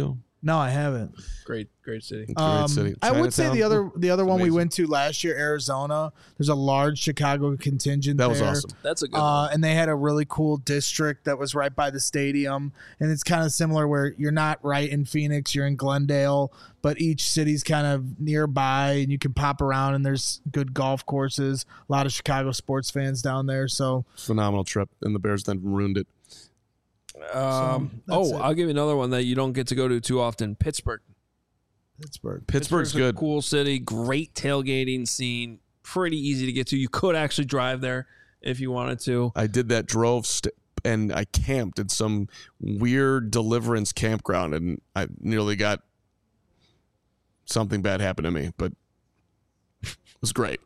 No, I haven't. Great city. Great city. I would say Chinatown. the other one we amazing. went to last year, Arizona. There's a large Chicago contingent. That was there. awesome. That's a good one. And they had a really cool district that was right by the stadium. And it's kind of similar where you're not right in Phoenix, you're in Glendale, but each city's kind of nearby and you can pop around and there's good golf courses. A lot of Chicago sports fans down there. So Phenomenal trip, and the Bears then ruined it. that's it. I'll give you another one that you don't get to go to too often. Pittsburgh. Pittsburgh's a good. cool city, great tailgating scene, pretty easy to get to. You could actually drive there if you wanted to. I did that, and I camped in some weird Deliverance campground, and I nearly got something bad happen to me, but it was great.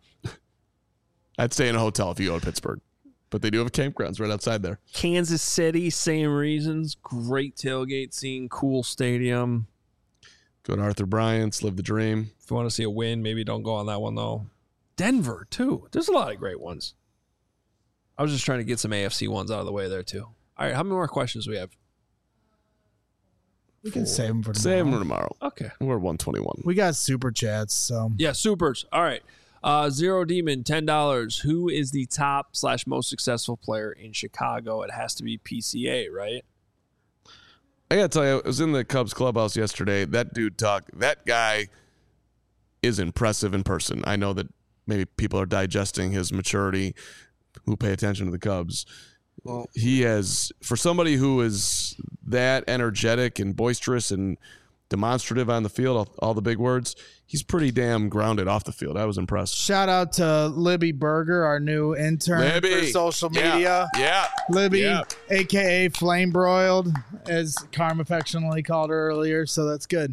I'd stay in a hotel if you go to Pittsburgh, but they do have campgrounds right outside there. Kansas City, same reasons. Great tailgate scene, cool stadium. Go to Arthur Bryant's, live the dream. If you want to see a win, maybe don't go on that one, though. Denver, too. There's a lot of great ones. I was just trying to get some AFC ones out of the way there, too. All right, how many more questions do we have? we can save them for tomorrow. Save them tomorrow. Okay. We're at 121. We got super chats. So Yeah, supers. All right. Zero Demon, $10. Who is the top / most successful player in Chicago? It has to be PCA, right? I gotta tell you, I was in the Cubs clubhouse yesterday. That dude that guy is impressive in person. I know that maybe people are digesting his maturity who pay attention to the Cubs. Well, he has, for somebody who is that energetic and boisterous and demonstrative on the field, all the big words, he's pretty damn grounded off the field. I was impressed. shout out to Libby Berger, our new intern for social media. Yeah. Libby, Yeah. aka Flame Broiled, as Carm affectionately called her earlier. So that's good.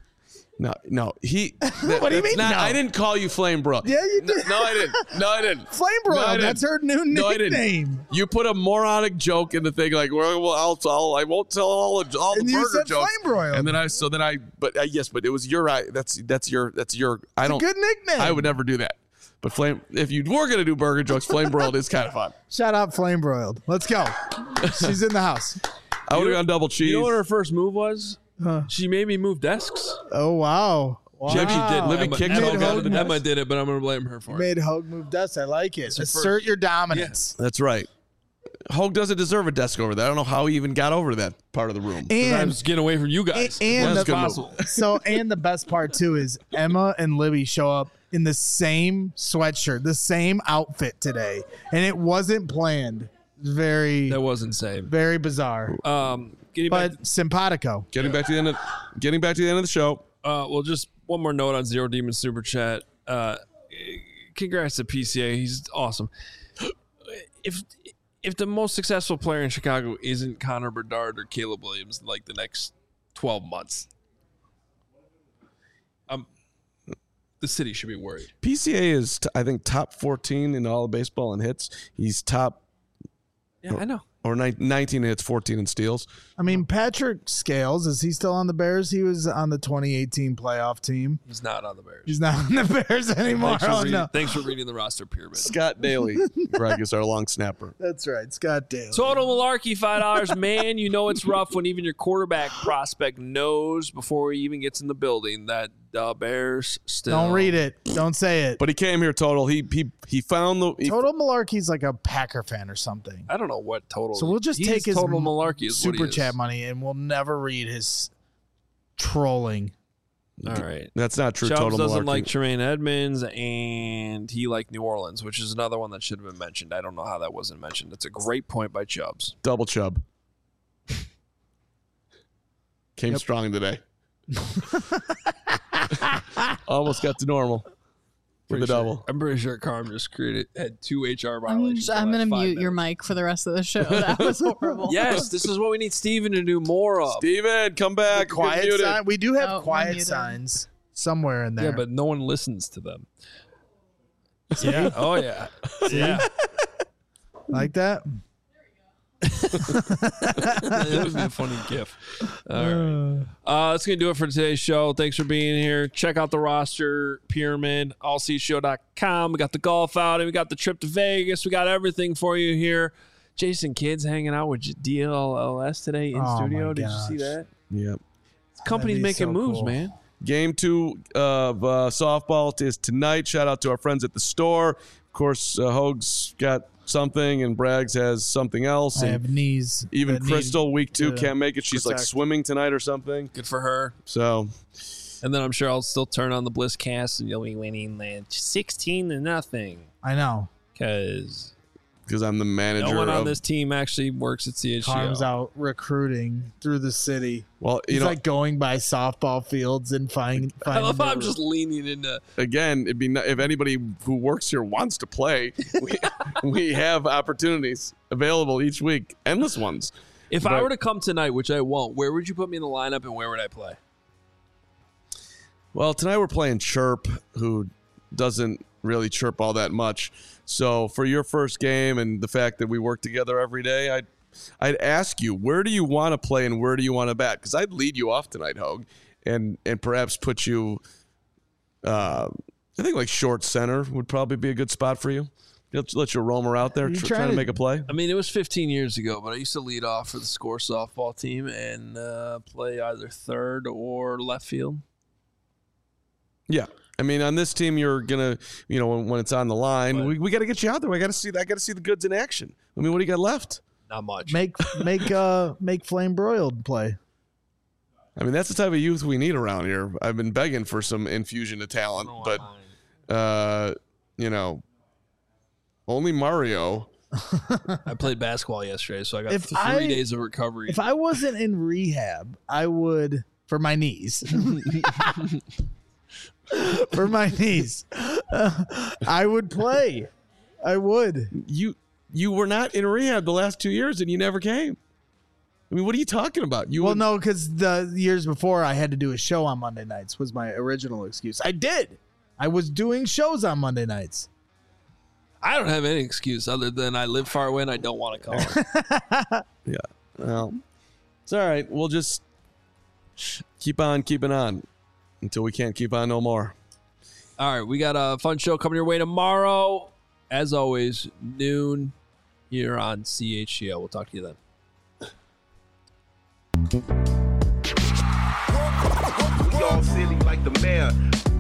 No. What do you mean, no? I didn't call you Flame Bro. Yeah, you did. No, I didn't. Flame No, I Broiled. didn't. That's her new No, I didn't. nickname. You put a moronic joke in the thing like, well, I won't tell all the And you burger said jokes. Flame Broiled. And then but it was your. That's your. I don't. Good nickname. I would never do that. But if you were gonna do burger jokes, Flame Broiled is kind of fun. Shout out Flame Broiled. Let's go. She's in the house. I would have gone double cheese. You know what her first move was? Huh. She made me move desks. Oh, wow. Maybe she did. Libby Emma, kicked Emma, it. got it. Emma did it, but I'm going to blame her for it. Made Hogue move dust. I like it. her Assert first- your dominance. That's right. Hogue doesn't deserve a desk over there. I don't know how he even got over to that part of the room. I And was getting away from you guys. and That's the, a good move. and the best part too is Emma and Libby show up in the same sweatshirt, the same outfit today, and it wasn't planned. Very, That was insane. very bizarre, Getting back, but simpatico. Getting back to the end of the show. well, just one more note on Zero Demon Super Chat. Congrats to PCA. He's awesome. If the most successful player in Chicago isn't Connor Bedard or Caleb Williams in like the next 12 months, the city should be worried. PCA is, I think, top 14 in all of baseball in hits. He's top Yeah, I know. or 19 hits, 14 in steals. I mean, Patrick Scales, is he still on the Bears? He was on the 2018 playoff team. He's not on the Bears. He's not on the Bears anymore. Thanks for reading the roster pyramid. Scott Daly, Greg, is our long snapper. That's right, Scott Daly. Total malarkey, $5. Man, you know it's rough when even your quarterback prospect knows before he even gets in the building that the Bears still. Don't read it. Don't say it. But he came here total. He found the. Total Malarkey's like a Packer fan or something. I don't know what total. So we'll just he's take his total malarkey is what he super is. chat money and we'll never read his trolling. All right. That's not true. Chubbs Total doesn't malarkey. like Tremaine Edmonds, and he liked New Orleans, which is another one that should have been mentioned. I don't know how that wasn't mentioned. It's a great point by Chubbs. Double Chubb. Came strong today. Almost got to normal for the double. I'm pretty sure Carm just had 2 HR violations. I'm going to mute your your mic for the rest of the show. That was horrible. Yes, this is what we need Steven to do more of. Steven, come back. Quiet You're muted. sign. We do have Oh, we're quiet muted. signs somewhere in there. Yeah, but no one listens to them. Yeah. Oh, yeah. Yeah. like that. It would be a funny gif. All right. That's going to do it for today's show. Thanks for being here. Check out the roster pyramid, allcshow.com. We got the golf outing. We got the trip to Vegas. We got everything for you here. Jason Kidd's hanging out with DLLS today in Oh, studio. my Did you see gosh. that? Yep. Company's That'd be making so moves, cool. man. Game 2 of softball is tonight. Shout out to our friends at the store. Of course, Hoag's got something and Braggs has something else. I And have knees. even that need Crystal, week 2, to can't make it. She's like protect. swimming tonight or something. Good for her. So, And then I'm sure I'll still turn on the Bliss cast and you'll be winning like 16-0. I know. Because I'm the manager no one on of this team actually works at CHGO. Carm's out recruiting through the city. well, He's you know, like going by softball fields and finding. I love how I'm the- just leaning into. again, it'd be if anybody who works here wants to play, we have opportunities available each week, endless ones. If I But- were to come tonight, which I won't, where would you put me in the lineup and where would I play? Well, tonight we're playing Chirp, who doesn't really chirp all that much. So for your first game and the fact that we work together every day, I'd ask you, where do you want to play and where do you want to bat? Because I'd lead you off tonight, Hoag, and perhaps put you, I think like short center would probably be a good spot for you. Let you roam out there You trying trying to to- make a play. I mean, it was 15 years ago, but I used to lead off for the Score softball team and play either third or left field. Yeah. I mean, on this team, you're gonna, when it's on the line, But- we got to get you out there. I got to see the goods in action. I mean, what do you got left? Not much. make Flame Broiled play. I mean, that's the type of youth we need around here. I've been begging for some infusion of talent, but only Mario. I played basketball yesterday, so I got If 3 I- days of recovery. If I wasn't in rehab, I would for my knees. For my knees, I would play. I would. You were not in rehab the last 2 years, and you never came. I mean, what are you talking about? Well, no, because the years before I had to do a show on Monday nights was my original excuse. I did. I was doing shows on Monday nights. I don't have any excuse other than I live far away and I don't want to call. Yeah. Well, it's all right. We'll just keep on keeping on until we can't keep on no more. All right, we got a fun show coming your way tomorrow. As always, noon here on CHGO. We'll talk to you then. We all silly like the mayor.